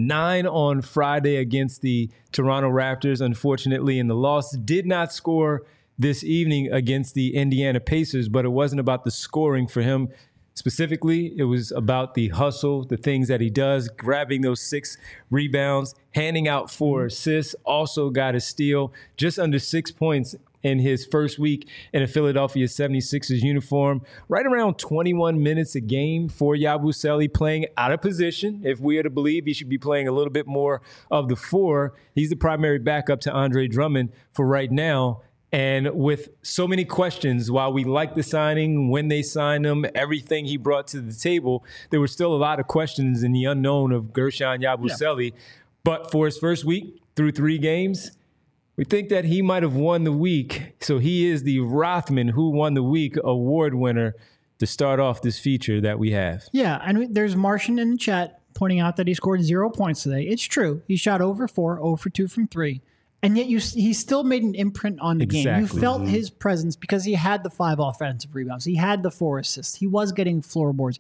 9 on Friday against the Toronto Raptors, unfortunately, in the loss. Did not score this evening against the Indiana Pacers, but it wasn't about the scoring for him specifically. It was about the hustle, the things that he does, grabbing those 6 rebounds, handing out 4 assists, also got a steal, just under 6 points in his first week in a Philadelphia 76ers uniform. Right around 21 minutes a game for Yabusele, playing out of position. If we are to believe, he should be playing a little bit more of the 4. He's the primary backup to Andre Drummond for right now. And with so many questions, while we like the signing, when they signed him, everything he brought to the table, there were still a lot of questions in the unknown of Guerschon Yabusele. Yeah. But for his first week through 3 games, we think that he might have won the week. So he is the Rothman Who Won the Week award winner to start off this feature that we have. Yeah, and there's Martian in the chat pointing out that he scored 0 points today. It's true. He shot 0 for 4, 0 for 2 from 3. And yet he still made an imprint on the game. You felt his presence because he had the 5 offensive rebounds. He had the 4 assists. He was getting floorboards.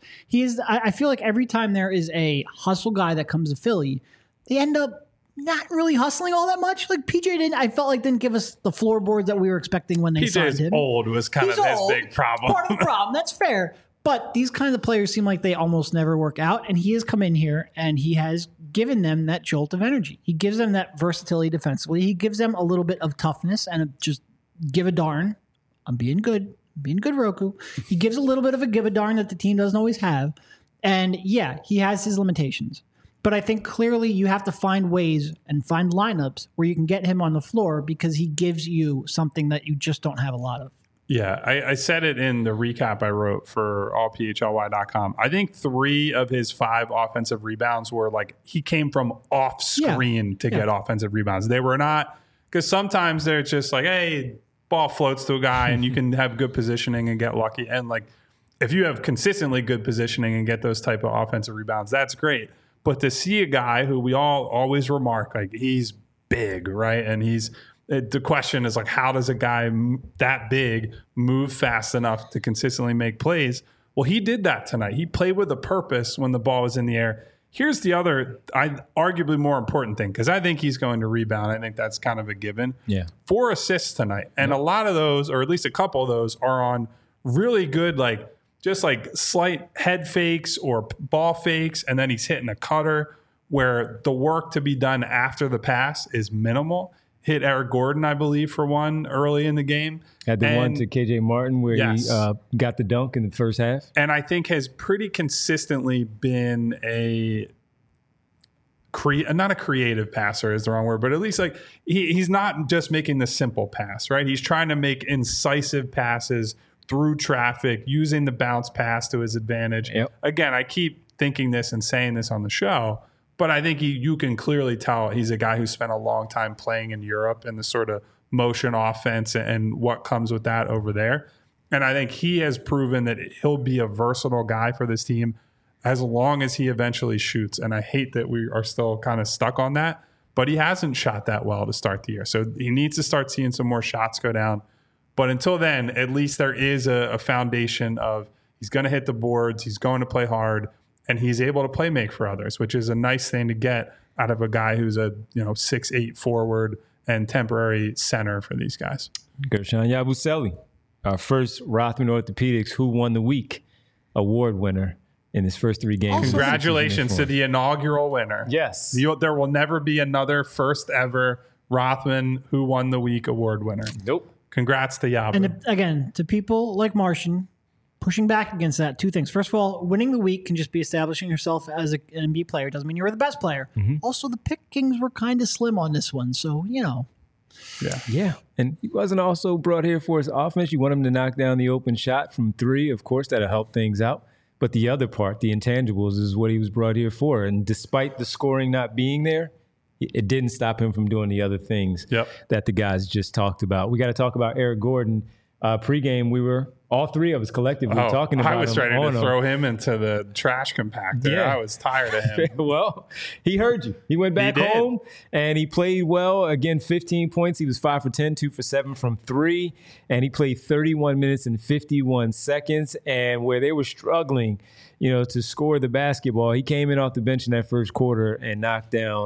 I feel like every time there is a hustle guy that comes to Philly, they end up not really hustling all that much. Like PJ didn't give us the floorboards that we were expecting when they signed him. Old was kind of his big problem. Part of the problem. That's fair. But these kinds of players seem like they almost never work out. And he has come in here and he has given them that jolt of energy. He gives them that versatility defensively. He gives them a little bit of toughness and just give a darn. I'm being good, Roku. He gives a little bit of a give a darn that the team doesn't always have. And yeah, he has his limitations. But I think clearly you have to find ways and find lineups where you can get him on the floor because he gives you something that you just don't have a lot of. Yeah, I said it in the recap I wrote for allphly.com. I think 3 of his 5 offensive rebounds were like he came from off screen to get offensive rebounds. They were not, because sometimes they're just like, hey, ball floats to a guy and you can have good positioning and get lucky. And like if you have consistently good positioning and get those type of offensive rebounds, that's great. But to see a guy who we all always remark, like he's big, right? And the question is like, how does a guy that big move fast enough to consistently make plays? Well, he did that tonight. He played with a purpose when the ball was in the air. Here's the other, arguably more important thing, because I think he's going to rebound. I think that's kind of a given. Yeah. 4 assists tonight. And a lot of those, or at least a couple of those, are on really good, like, just like slight head fakes or ball fakes, and then he's hitting a cutter where the work to be done after the pass is minimal. Hit Eric Gordon, I believe, for one early in the game. Had the one to KJ Martin where he got the dunk in the first half. And I think has pretty consistently been not a creative passer is the wrong word, but at least like he's not just making the simple pass, right? He's trying to make incisive passes through traffic, using the bounce pass to his advantage. Yep. Again, I keep thinking this and saying this on the show, but I think you can clearly tell he's a guy who spent a long time playing in Europe and the sort of motion offense and what comes with that over there. And I think he has proven that he'll be a versatile guy for this team as long as he eventually shoots. And I hate that we are still kind of stuck on that, but he hasn't shot that well to start the year. So he needs to start seeing some more shots go down. But until then, at least there is a foundation of he's going to hit the boards, he's going to play hard, and he's able to play make for others, which is a nice thing to get out of a guy who's a 6'8" forward and temporary center for these guys. Guerschon Yabusele, our first Rothman Orthopedics Who Won the Week award winner. in his first 3 games. Congratulations to the inaugural winner. Yes. There will never be another first ever Rothman Who Won the Week award winner. Nope. Congrats to Yabba. And again, to people like Martian, pushing back against that, 2 things. First of all, winning the week can just be establishing yourself as an NBA player. Doesn't mean you're the best player. Also, the pickings were kind of slim on this one. So, Yeah. And he wasn't also brought here for his offense. You want him to knock down the open shot from 3. Of course, that'll help things out. But the other part, the intangibles, is what he was brought here for. And despite the scoring not being there, it didn't stop him from doing the other things that the guys just talked about. We got to talk about Eric Gordon. Pregame, we were all 3 of us collectively talking about him. I was ready to throw him into the trash compactor. Yeah. I was tired of him. Well, he heard you. He went back home and he played well. Again, 15 points. He was 5 for 10, 2 for 7 from 3. And he played 31 minutes and 51 seconds. And where they were struggling, to score the basketball, he came in off the bench in that first quarter and knocked down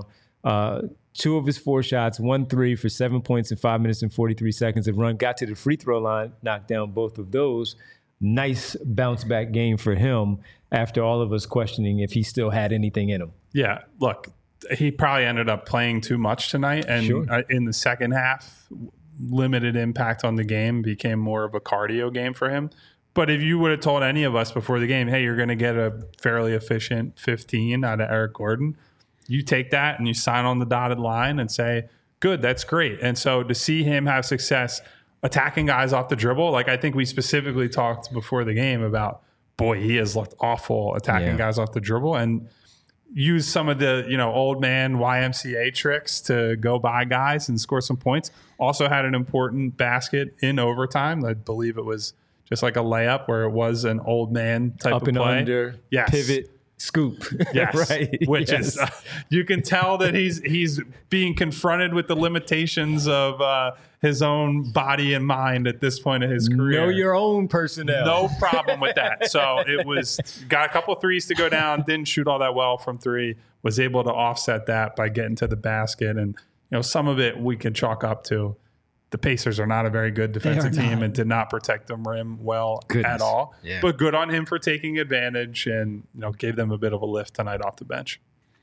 2 of his 4 shots, 1 3 for 7 points in 5 minutes and 43 seconds of run. Got to the free throw line, knocked down both of those. Nice bounce back game for him after all of us questioning if he still had anything in him. Yeah, look, he probably ended up playing too much tonight. And in the second half, limited impact on the game, became more of a cardio game for him. But if you would have told any of us before the game, hey, you're going to get a fairly efficient 15 out of Eric Gordon, you take that and you sign on the dotted line and say, good, that's great. And so to see him have success attacking guys off the dribble, like I think we specifically talked before the game about, boy, he has looked awful attacking guys off the dribble, and use some of the, old man YMCA tricks to go by guys and score some points. Also had an important basket in overtime. I believe it was just like a layup where it was an old man type up of and play. Under, pivot. Scoop. Yes. Right. Which is, you can tell that he's being confronted with the limitations of his own body and mind at this point of his career. Know your own personnel. No problem with that. So it was, got a couple of threes to go down, didn't shoot all that well from 3, was able to offset that by getting to the basket. And, some of it we can chalk up to the Pacers are not a very good defensive team and did not protect the rim well at all. Yeah. But good on him for taking advantage and gave them a bit of a lift tonight off the bench.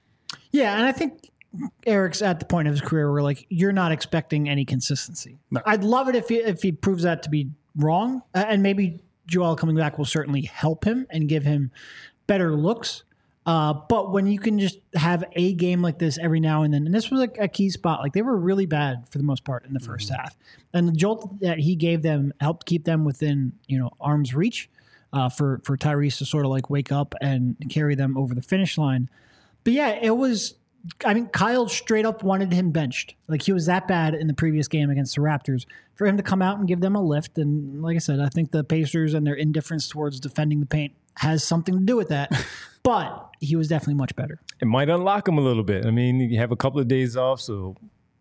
Yeah, and I think Eric's at the point of his career where you're not expecting any consistency. No. I'd love it if he proves that to be wrong, and maybe Joel coming back will certainly help him and give him better looks. But when you can just have a game like this every now and then, and this was a key spot, they were really bad for the most part in the first half. And the jolt that he gave them helped keep them within, arm's reach for Tyrese to sort of wake up and carry them over the finish line. But yeah, it was, Kyle straight up wanted him benched. He was that bad in the previous game against the Raptors. For him to come out and give them a lift. And like I said, I think the Pacers and their indifference towards defending the paint has something to do with that. But he was definitely much better. It might unlock him a little bit. You have a couple of days off, so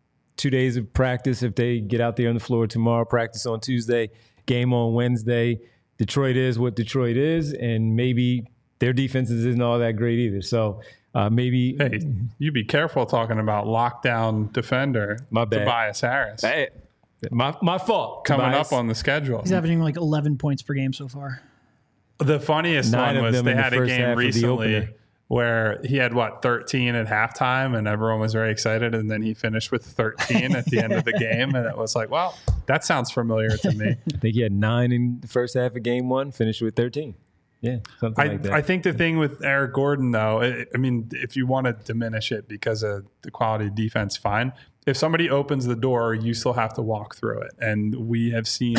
2 days of practice if they get out there on the floor tomorrow, practice on Tuesday, game on Wednesday. Detroit is what Detroit is, and maybe their defense isn't all that great either. So maybe... Hey, you be careful talking about lockdown defender Tobias Harris. Hey, my fault. Coming Tobias. Up on the schedule. He's averaging 11 points per game so far. The funniest one was they had a game recently where he had 13 at halftime and everyone was very excited, and then he finished with 13 at the end of the game, and it was well, that sounds familiar to me. I think he had 9 in the first half of game 1, finished with 13. Yeah, something like that. I think the thing with Eric Gordon, though, if you want to diminish it because of the quality of defense, fine. If somebody opens the door, you still have to walk through it. And we have seen,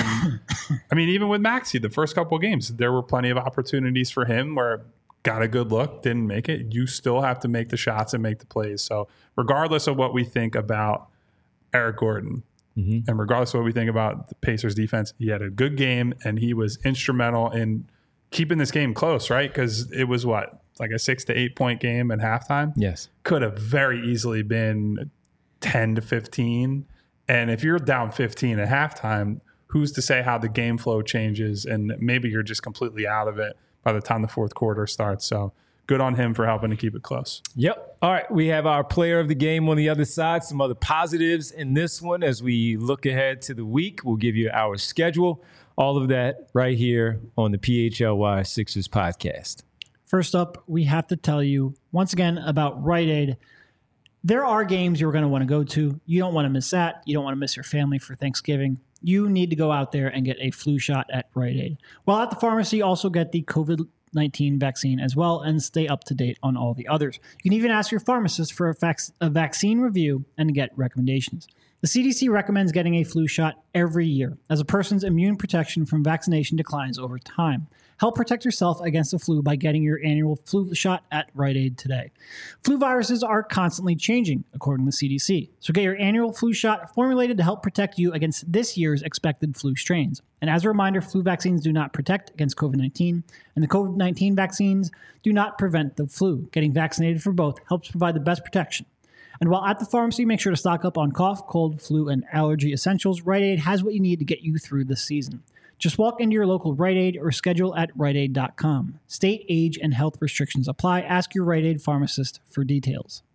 even with Maxey, the first couple of games, there were plenty of opportunities for him where got a good look, didn't make it. You still have to make the shots and make the plays. So regardless of what we think about Eric Gordon, and regardless of what we think about the Pacers defense, he had a good game and he was instrumental in keeping this game close, right? Because it was a 6 to 8 point game at halftime? Yes. Could have very easily been 10 to 15. And if you're down 15 at halftime, who's to say how the game flow changes? And maybe you're just completely out of it by the time the fourth quarter starts. So good on him for helping to keep it close. Yep. All right. We have our player of the game on the other side. Some other positives in this one as we look ahead to the week. We'll give you our schedule. All of that right here on the PHLY Sixers podcast. First up, we have to tell you once again about Rite Aid. There are games you're going to want to go to. You don't want to miss that. You don't want to miss your family for Thanksgiving. You need to go out there and get a flu shot at Rite Aid. While at the pharmacy, also get the COVID-19 vaccine as well and stay up to date on all the others. You can even ask your pharmacist for a vaccine review and get recommendations. The CDC recommends getting a flu shot every year, as a person's immune protection from vaccination declines over time. Help protect yourself against the flu by getting your annual flu shot at Rite Aid today. Flu viruses are constantly changing, according to the CDC. So get your annual flu shot formulated to help protect you against this year's expected flu strains. And as a reminder, flu vaccines do not protect against COVID-19, and the COVID-19 vaccines do not prevent the flu. Getting vaccinated for both helps provide the best protection. And while at the pharmacy, make sure to stock up on cough, cold, flu, and allergy essentials. Rite Aid has what you need to get you through the season. Just walk into your local Rite Aid or schedule at riteaid.com. State, age, and health restrictions apply. Ask your Rite Aid pharmacist for details.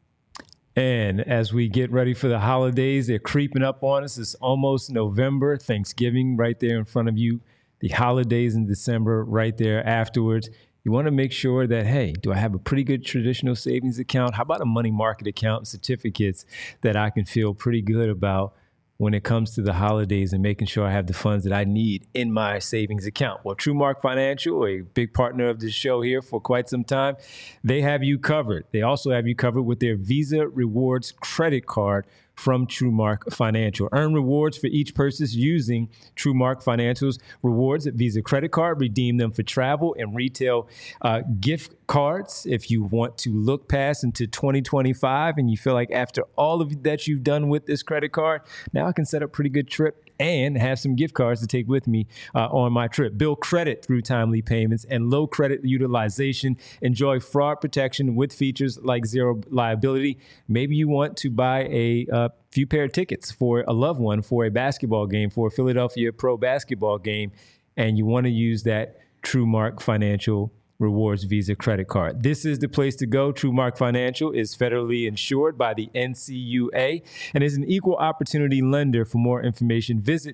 And as we get ready for the holidays, they're creeping up on us. It's almost November, Thanksgiving right there in front of you. The holidays in December right there afterwards. You want to make sure that, hey, do I have a pretty good traditional savings account? How about a money market account and certificates that I can feel pretty good about when it comes to the holidays and making sure I have the funds that I need in my savings account? Well, TrueMark Financial, a big partner of this show here for quite some time, they have you covered. They also have you covered with their Visa Rewards credit card from TrueMark Financial. Earn rewards for each purchase using TrueMark Financial's rewards at Visa credit card. Redeem them for travel and retail gift cards. If you want to look past into 2025 and you feel like after all of that you've done with this credit card, now I can set up a pretty good trip and have some gift cards to take with me on my trip. Build credit through timely payments and low credit utilization. Enjoy fraud protection with features like zero liability. Maybe you want to buy a few pair of tickets for a loved one for a basketball game, for a Philadelphia Pro basketball game, and you want to use that TrueMark Financial Rewards Visa credit card. This is the place to go. TrueMark Financial is federally insured by the NCUA and is an equal opportunity lender. For more information, visit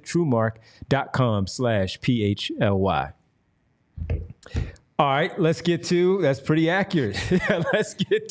truemark.com/PHLY. All right, let's get to, that's pretty accurate. Let's get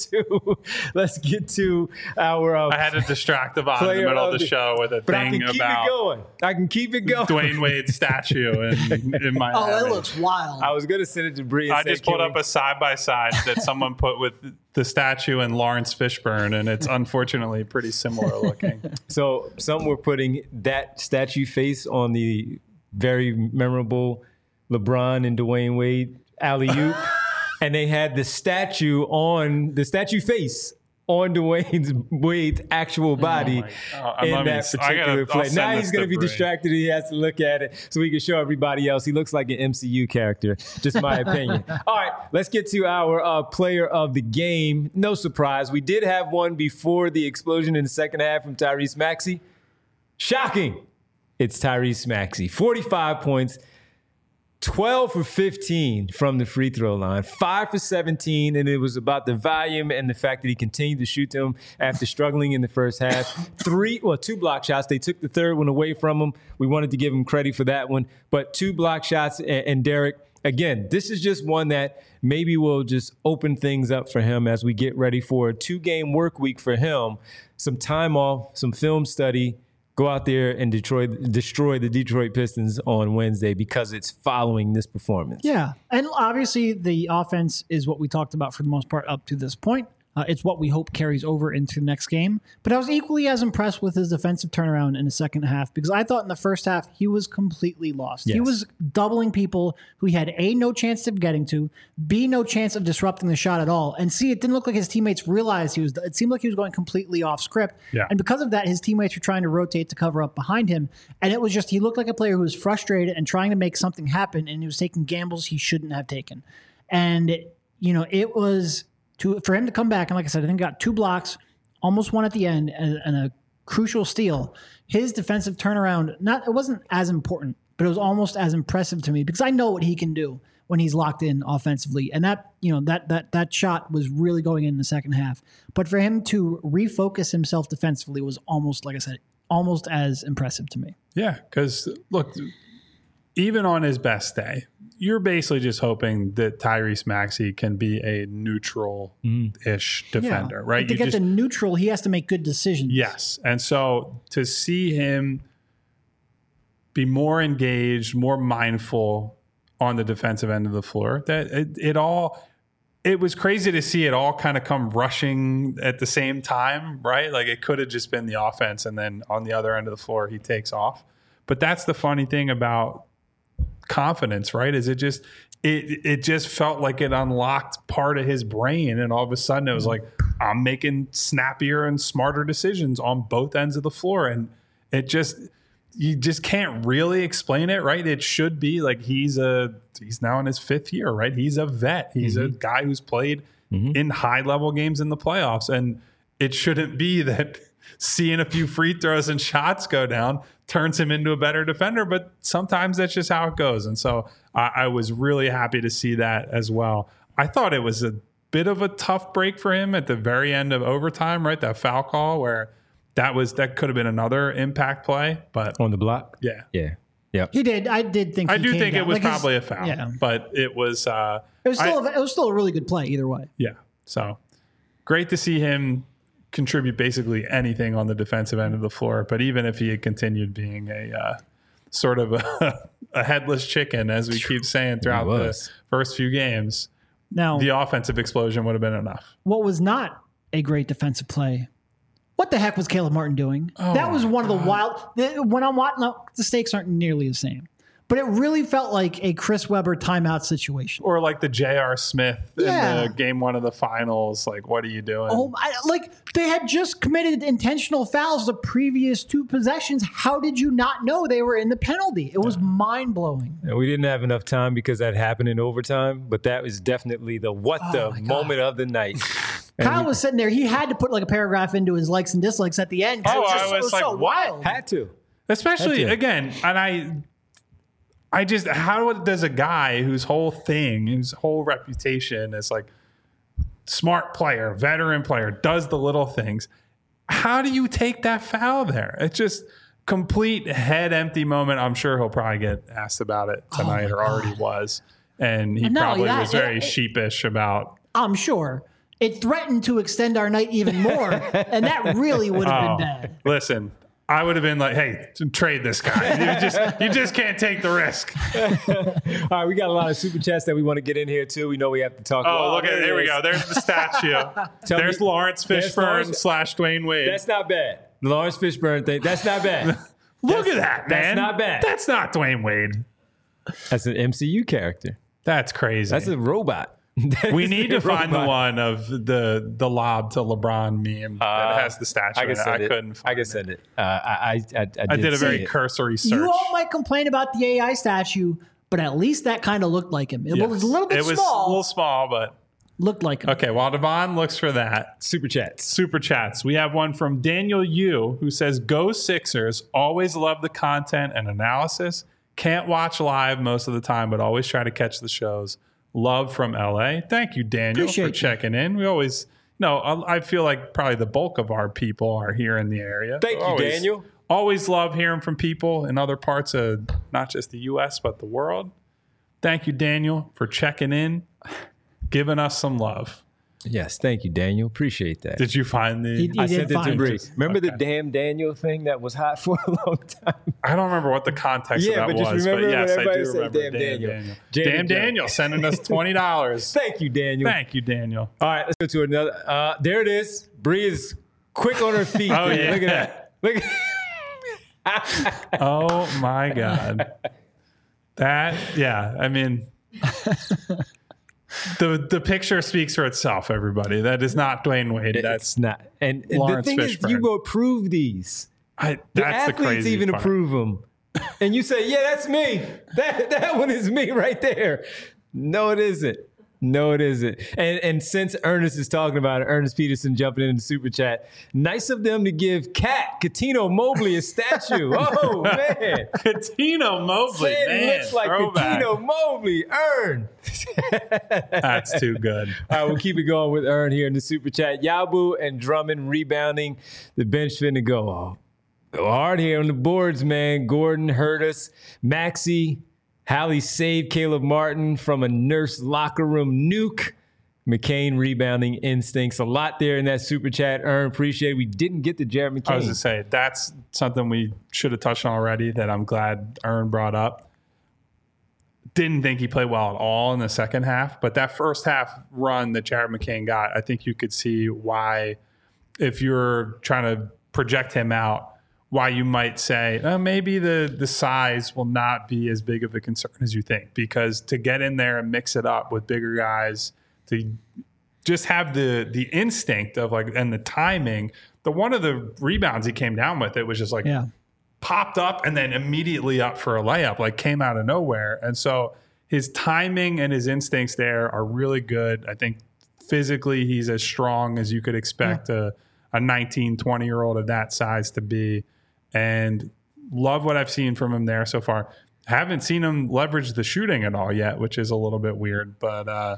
to our I had to distract the bottom in the middle of the show with a thing about I can keep it going. Dwayne Wade's statue in my it looks wild. I was going to send it to Bree. I just pulled up a side-by-side that someone put with the statue and Lawrence Fishburne, and it's unfortunately pretty similar looking. So some were putting that statue face on the very memorable LeBron and Dwayne Wade alley-oop, and they had the statue face on Dwayne Wade's actual body in that particular play. Now he's going to be distracted. He has to look at it so we can show everybody else. He looks like an MCU character, just my opinion. All right, let's get to our player of the game. No surprise. We did have one before the explosion in the second half from Tyrese Maxey. Shocking. It's Tyrese Maxey. 45 points. 12 for 15 from the free throw line, 5 for 17, and it was about the volume and the fact that he continued to shoot them after struggling in the first half. 2 block shots. They took the third one away from him. We wanted to give him credit for that one, but 2 block shots. And Derek, again, this is just one that maybe will just open things up for him as we get ready for a 2-game work week for him, some time off, some film study. Go out there and destroy the Detroit Pistons on Wednesday because it's following this performance. Yeah, and obviously the offense is what we talked about for the most part up to this point. It's what we hope carries over into the next game. But I was equally as impressed with his defensive turnaround in the second half because I thought in the first half he was completely lost. Yes. He was doubling people who he had A, no chance of getting to, B, no chance of disrupting the shot at all, and C, it didn't look like his teammates realized it seemed like he was going completely off script. Yeah. And because of that, his teammates were trying to rotate to cover up behind him. And it was just, he looked like a player who was frustrated and trying to make something happen, and he was taking gambles he shouldn't have taken. And, it was... for him to come back, and like I said, I think got 2 blocks, almost one at the end, and a crucial steal. His defensive turnaround, it wasn't as important, but it was almost as impressive to me because I know what he can do when he's locked in offensively. And that shot was really going in the second half. But for him to refocus himself defensively was almost, like I said, almost as impressive to me. Yeah, because look, even on his best day, you're basically just hoping that Tyrese Maxey can be a neutral-ish defender, right? But to get the neutral, he has to make good decisions. Yes. And so to see him be more engaged, more mindful on the defensive end of the floor, that it was crazy to see it all kind of come rushing at the same time, right? Like it could have just been the offense, and then on the other end of the floor, he takes off. But that's the funny thing about confidence, right? Is it just felt like it unlocked part of his brain, and all of a sudden it was like, I'm making snappier and smarter decisions on both ends of the floor. And you just can't really explain it, right? It should be like he's now in his 5th year, right? He's a vet. He's a guy who's played in high level games in the playoffs. And it shouldn't be that seeing a few free throws and shots go down turns him into a better defender, but sometimes that's just how it goes. And so I was really happy to see that as well. I thought it was a bit of a tough break for him at the very end of overtime, right? That foul call where that could have been another impact play, but on the block. Yeah. He did. I do think it was probably a foul, but it was. It was still a really good play either way. Yeah. So great to see him contribute basically anything on the defensive end of the floor. But even if he had continued being a sort of a headless chicken, as we keep saying throughout the first few games, now the offensive explosion would have been enough. What was not a great defensive play? What the heck was Caleb Martin doing? That was one of the wild. When I'm watching, the stakes aren't nearly the same, but it really felt like a Chris Webber timeout situation, or like the J.R. Smith in the game 1 of the finals. Like, what are you doing? They had just committed intentional fouls the previous 2 possessions. How did you not know they were in the penalty? It was mind blowing. We didn't have enough time because that happened in overtime, but that was definitely the moment of the night. Kyle was sitting there. He had to put like a paragraph into his likes and dislikes at the end. I was like, so wild. Had to. Especially, again, and I just, how does a guy whose whole reputation is like smart player, veteran player, does the little things, how do you take that foul there? It's just complete head empty moment. I'm sure he'll probably get asked about it tonight or already was. And he probably was very sheepish about. I'm sure. It threatened to extend our night even more, and that really would have been bad. Listen, I would have been like, hey, trade this guy. You just can't take the risk. All right, we got a lot of super chats that we want to get in here, too. We know we have to talk about. Oh, look at it. There we go. There's the statue. There's Lawrence Fishburne / Dwayne Wade. That's not bad. The Lawrence Fishburne thing, that's not bad. Look at that, man. That's not bad. That's not Dwayne Wade. That's an MCU character. That's crazy. That's a robot. We need to find the one of the lob to LeBron meme that has the statue. I couldn't find it. I can send it. I did a very cursory search. You all might complain about the AI statue, but at least that kind of looked like him. It was a little bit small. It was a little small, but looked like him. Okay, while Devon looks for that. Super chats. We have one from Daniel Yu who says, "Go Sixers. Always love the content and analysis. Can't watch live most of the time, but always try to catch the shows. Love from LA." Thank you, Daniel, for checking in. We always, I feel like probably the bulk of our people are here in the area. Thank you, Daniel. Always love hearing from people in other parts of not just the U.S., but the world. Thank you, Daniel, for checking in, giving us some love. Yes, thank you, Daniel. Appreciate that. Did you find the? I sent it to Bree. Remember the damn Daniel thing that was hot for a long time? I don't remember what the context of that was, but yes, I do remember. Damn Daniel sending us $20. Thank you, Daniel. Thank you, Daniel. All right, let's go to another. There it is. Bree is quick on her feet. Oh, yeah. Look at that. Look at Oh, my God. I mean... The picture speaks for itself, everybody. That is not Dwayne Wade. That's not. And Lawrence the thing Fishburne. Is, you go approve these. That's the athletes the crazy even part. approve them. And you say, yeah, that's me. That one is me right there. No, it isn't. No, it isn't. And since Ernest is talking about it, Ernest Peterson jumping in the super chat, nice of them to give Katino Mobley a statue. Oh, man. Katino Mobley, man. Looks like Katino Mobley. Ern. That's too good. All right, we'll keep it going with Ern here in the super chat. Yabu and Drummond rebounding. The bench finna go hard here on the boards, man. Gordon hurt us. Maxey Hallie saved Caleb Martin from a Nurse locker room nuke. McCain rebounding instincts. A lot there in that super chat. Ern, appreciate it. We didn't get to Jared McCain. I was going to say, that's something we should have touched on already that I'm glad Ern brought up. Didn't think he played well at all in the second half, but that first half run that Jared McCain got, I think you could see why, if you're trying to project him out, why you might say, maybe the size will not be as big of a concern as you think, because to get in there and mix it up with bigger guys, to just have the instinct of and the timing. One of the rebounds he came down with, it was just popped up and then immediately up for a layup, came out of nowhere. And so his timing and his instincts there are really good. I think physically he's as strong as you could expect a 19, 20-year-old of that size to be. And love what I've seen from him there so far. Haven't seen him leverage the shooting at all yet, which is a little bit weird. But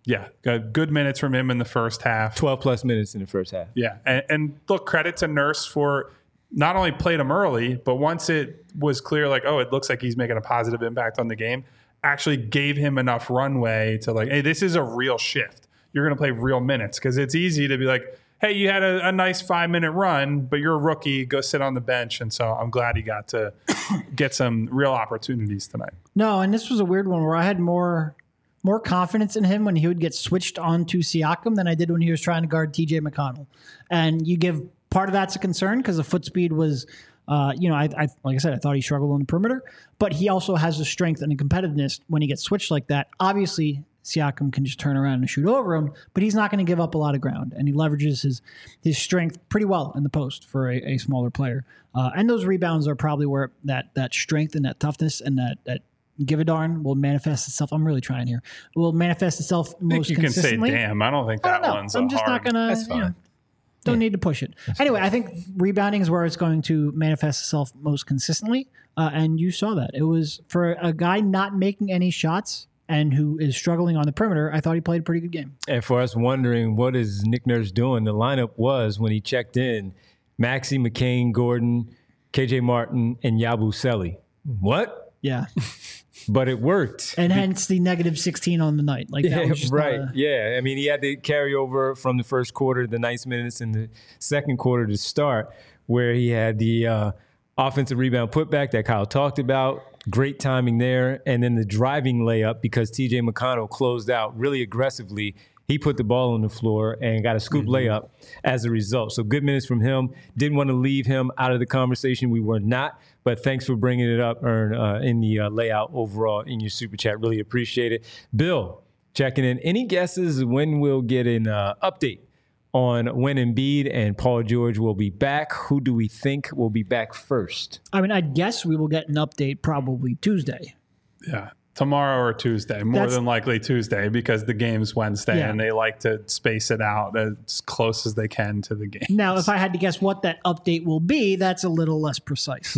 got good minutes from him in the first half. 12-plus minutes in the first half. Yeah. And look, credit to Nurse for not only played him early, but once it was clear, it looks like he's making a positive impact on the game, actually gave him enough runway to hey, this is a real shift. You're going to play real minutes, because it's easy to be hey, you had a nice 5-minute run, but you're a rookie, go sit on the bench. And so I'm glad he got to get some real opportunities tonight. No, and this was a weird one where I had more confidence in him when he would get switched on to Siakam than I did when he was trying to guard TJ McConnell. And you give part of that's a concern because the foot speed was, like I said, I thought he struggled on the perimeter, but he also has the strength and the competitiveness when he gets switched like that. Obviously, Siakam can just turn around and shoot over him, but he's not going to give up a lot of ground, and he leverages his strength pretty well in the post for a smaller player. And those rebounds are probably where that strength and that toughness and that give a darn will manifest itself. I'm really trying here. Will manifest itself most consistently. You can say, damn, I don't think that one's I'm just hard. not going to. That's fine. Don't need to push it. Anyway, I think rebounding is where it's going to manifest itself most consistently. And you saw that. It was for a guy not making any shots and who is struggling on the perimeter. I thought he played a pretty good game. And for us wondering, what is Nick Nurse doing? The lineup was, when he checked in, Maxey, McCain, Gordon, KJ Martin, and Yabusele. What? Yeah. But it worked. And hence the negative 16 on the night. That was just right. Yeah. I mean, he had to carry over from the first quarter, the nice minutes in the second quarter to start, where he had the offensive rebound putback that Kyle talked about. Great timing there. And then the driving layup, because TJ McConnell closed out really aggressively. He put the ball on the floor and got a scoop layup as a result. So good minutes from him. Didn't want to leave him out of the conversation. We were not. But thanks for bringing it up, Ern, in the layout overall in your super chat. Really appreciate it. Bill, checking in. Any guesses when we'll get an update on when Embiid and Paul George will be back? Who do we think will be back first? I mean, I guess we will get an update probably Tuesday. Yeah. Tomorrow or Tuesday, more than likely Tuesday, because the game's Wednesday and they like to space it out as close as they can to the game. Now, if I had to guess what that update will be, that's a little less precise.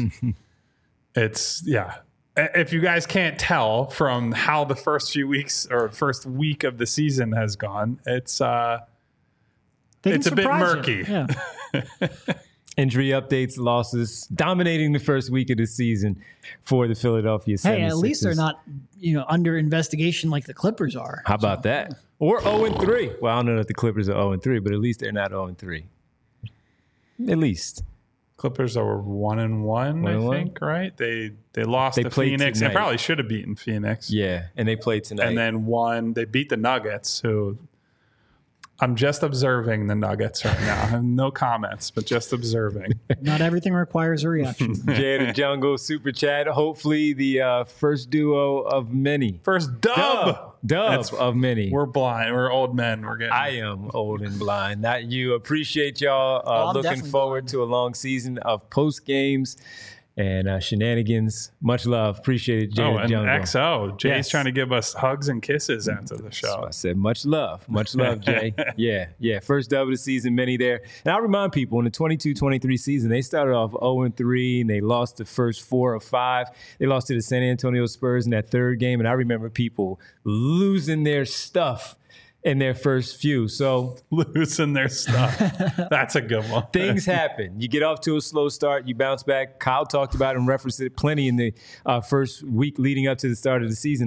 If you guys can't tell from how the first few weeks or first week of the season has gone, it's a bit murky. Yeah. Injury updates, losses, dominating the first week of the season for the Philadelphia 76ers. Hey, at least they're not, under investigation like the Clippers are. How about that? Or 0-3. Well, I don't know if the Clippers are 0-3, but at least they're not 0-3. At least. Clippers are 1-1, I think, right? They lost to Phoenix. They probably should have beaten Phoenix. Yeah, and they played tonight. And then won. They beat the Nuggets, who I'm just observing the Nuggets right now. I have no comments, but just observing. Not everything requires a reaction. Jay the Jungle Super Chat. Hopefully the first duo of many. First dub of many. We're blind. We're old men. I am old and blind. Not you. Appreciate y'all. Looking forward to a long season of post games and shenanigans. Much love. Appreciate it, Jay the Jungle. XO. Jay's trying to give us hugs and kisses after the show. So I said much love. Much love, Jay. Yeah. First dub of the season, many there. And I'll remind people, in the 22-23 season, they started off 0-3, and they lost the first 4 of 5. They lost to the San Antonio Spurs in that third game, and I remember people losing their stuff in their first few. So losing their stuff. That's a good one. Things happen. You get off to a slow start. You bounce back. Kyle talked about it and referenced it plenty in the first week leading up to the start of the season.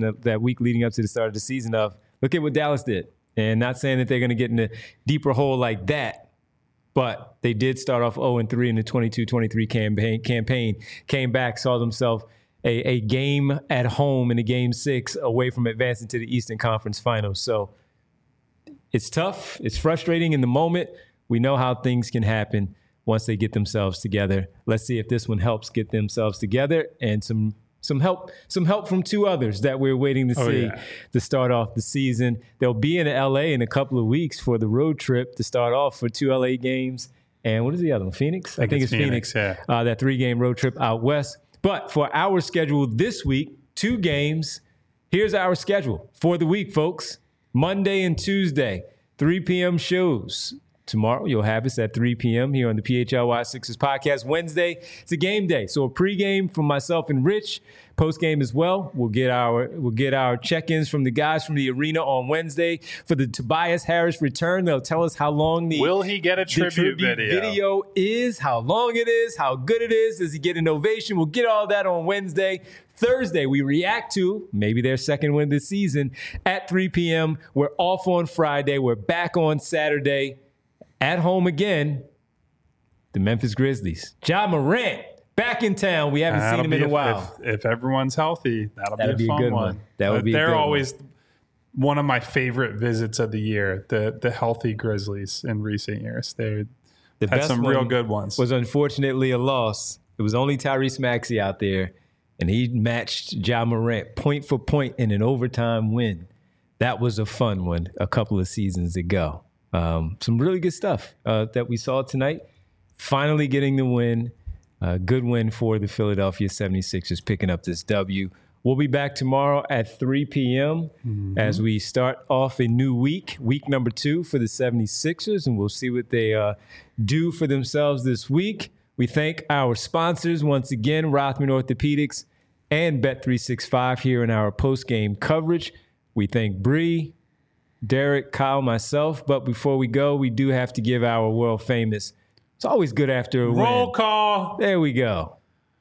Look at what Dallas did. And not saying that they're going to get in a deeper hole like that, but they did start off 0-3 in the 22-23 campaign, came back, saw themselves a game at home in a game 6 away from advancing to the Eastern Conference Finals. So it's tough. It's frustrating in the moment. We know how things can happen once they get themselves together. Let's see if this one helps get themselves together and some help from 2 others that we're waiting to see to start off the season. They'll be in LA in a couple of weeks for the road trip to start off for 2 LA games. And what is the other one? Phoenix? I think it's Phoenix. Yeah. That 3-game road trip out west. But for our schedule this week, 2 games. Here's our schedule for the week, folks. Monday and Tuesday, 3 p.m. shows. Tomorrow, you'll have us at 3 p.m. here on the PHLY Sixers podcast. Wednesday, it's a game day. So a pregame from myself and Rich. Postgame as well. We'll get our check-ins from the guys from the arena on Wednesday for the Tobias Harris return. They'll tell us how long will he get a tribute video is, how long it is, how good it is. Does he get an ovation? We'll get all that on Wednesday. Thursday, we react to maybe their second win this season at 3 p.m. We're off on Friday. We're back on Saturday. At home again, the Memphis Grizzlies. Ja Morant back in town. We haven't seen him in a while. If everyone's healthy, that'll be a fun one. That would be. They're always one of my favorite visits of the year. The healthy Grizzlies in recent years. They had some real good ones. Was unfortunately a loss. It was only Tyrese Maxey out there, and he matched Ja Morant point for point in an overtime win. That was a fun one a couple of seasons ago. Some really good stuff that we saw tonight. Finally getting the win. Good win for the Philadelphia 76ers, picking up this W. We'll be back tomorrow at 3 p.m. As we start off a new week number 2 for the 76ers, and we'll see what they do for themselves this week. We thank our sponsors once again, Rothman Orthopedics and Bet365 here in our post-game coverage. We thank Bree, Derek, Kyle, myself. But before we go, we do have to give our world famous. It's always good after a roll win. Call. There we go.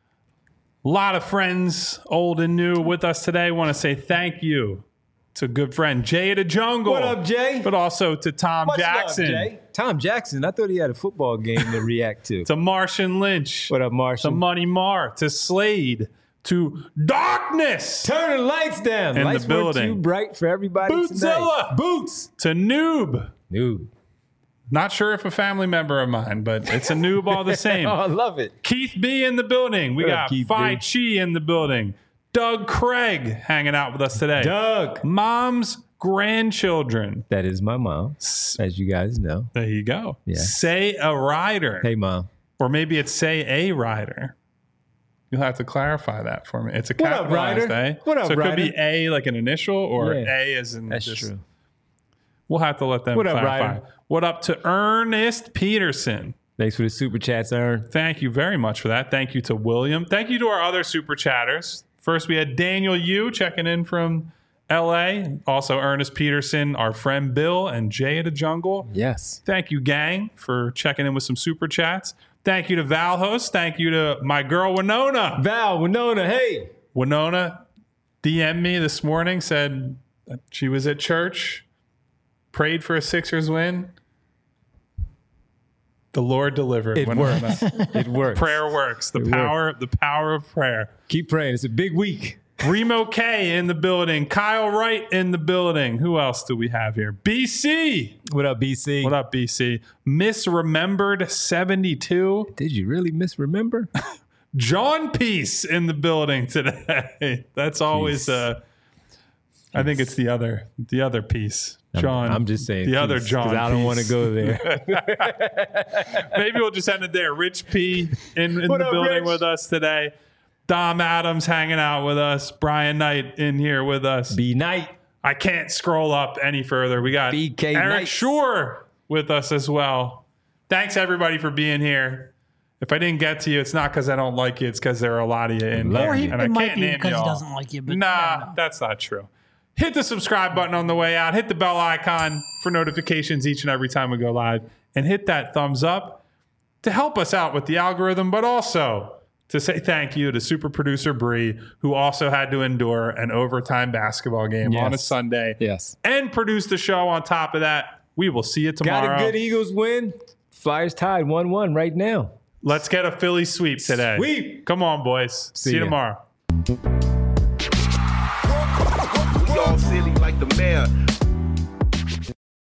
A lot of friends, old and new, with us today. Want to say thank you to good friend Jay the Jungle. What up, Jay? But also to Tom Jackson. Love, Jay. Tom Jackson. I thought he had a football game to react to. To Martian Lynch. What up, Martian? To Money Mar. To Slade. To Darkness. Turn the lights down. In lights the building. Weren't too bright for everybody Bootzilla. Tonight. Boots. To Noob. Noob. Not sure if a family member of mine, but it's a noob all the same. Oh, I love it. Keith B in the building. We got Phi Chi in the building. Doug Craig hanging out with us today. Doug. Mom's grandchildren. That is my mom, as you guys know. There you go. Yeah. Say a rider. Hey, Mom. Or maybe it's say a rider. You'll have to clarify that for me. It's a capitalized A. What up, so it Ryder? could be A like an initial or A as in That's just, true. We'll have to let them What up, clarify. Ryder? What up to Ernest Peterson? Thanks for the super chats, Ern. Thank you very much for that. Thank you to William. Thank you to our other super chatters. First, we had Daniel Yu checking in from L.A. Also, Ernest Peterson, our friend Bill, and Jay at the Jungle. Yes. Thank you, gang, for checking in with some super chats. Thank you to Valhost. Thank you to my girl, Winona. Winona, hey. Winona DM'd me this morning, said that she was at church, prayed for a Sixers win. The Lord delivered. It works. It works. Prayer works. The power of prayer. Keep praying. It's a big week. Remo K in the building. Kyle Wright in the building. Who else do we have here? BC. What up, BC? What up, BC? Misremembered 72. Did you really misremember? John Peace in the building today. That's always I think it's the other piece. John. I'm just saying the other John. I don't want to go there. Maybe we'll just end it there. Rich P in the building Rich? with us today. Dom Adams hanging out with us. Brian Knight in here with us. B Knight. I can't scroll up any further. We got BK Eric Knights. Shore with us as well. Thanks everybody for being here. If I didn't get to you, it's not because I don't like you. It's because there are a lot of you in here. Or and I it might can't be name because you he all. doesn't like you. But Nah, that's not true. Hit the subscribe button on the way out. Hit the bell icon for notifications each and every time we go live. And hit that thumbs up to help us out with the algorithm, but also to say thank you to super producer Bree, who also had to endure an overtime basketball game on a Sunday. Yes. And produce the show on top of that. We will see you tomorrow. Got a good Eagles win. Flyers tied 1-1 right now. Let's get a Philly sweep today. Sweep. Come on, boys. See you tomorrow. We all silly like the mayor.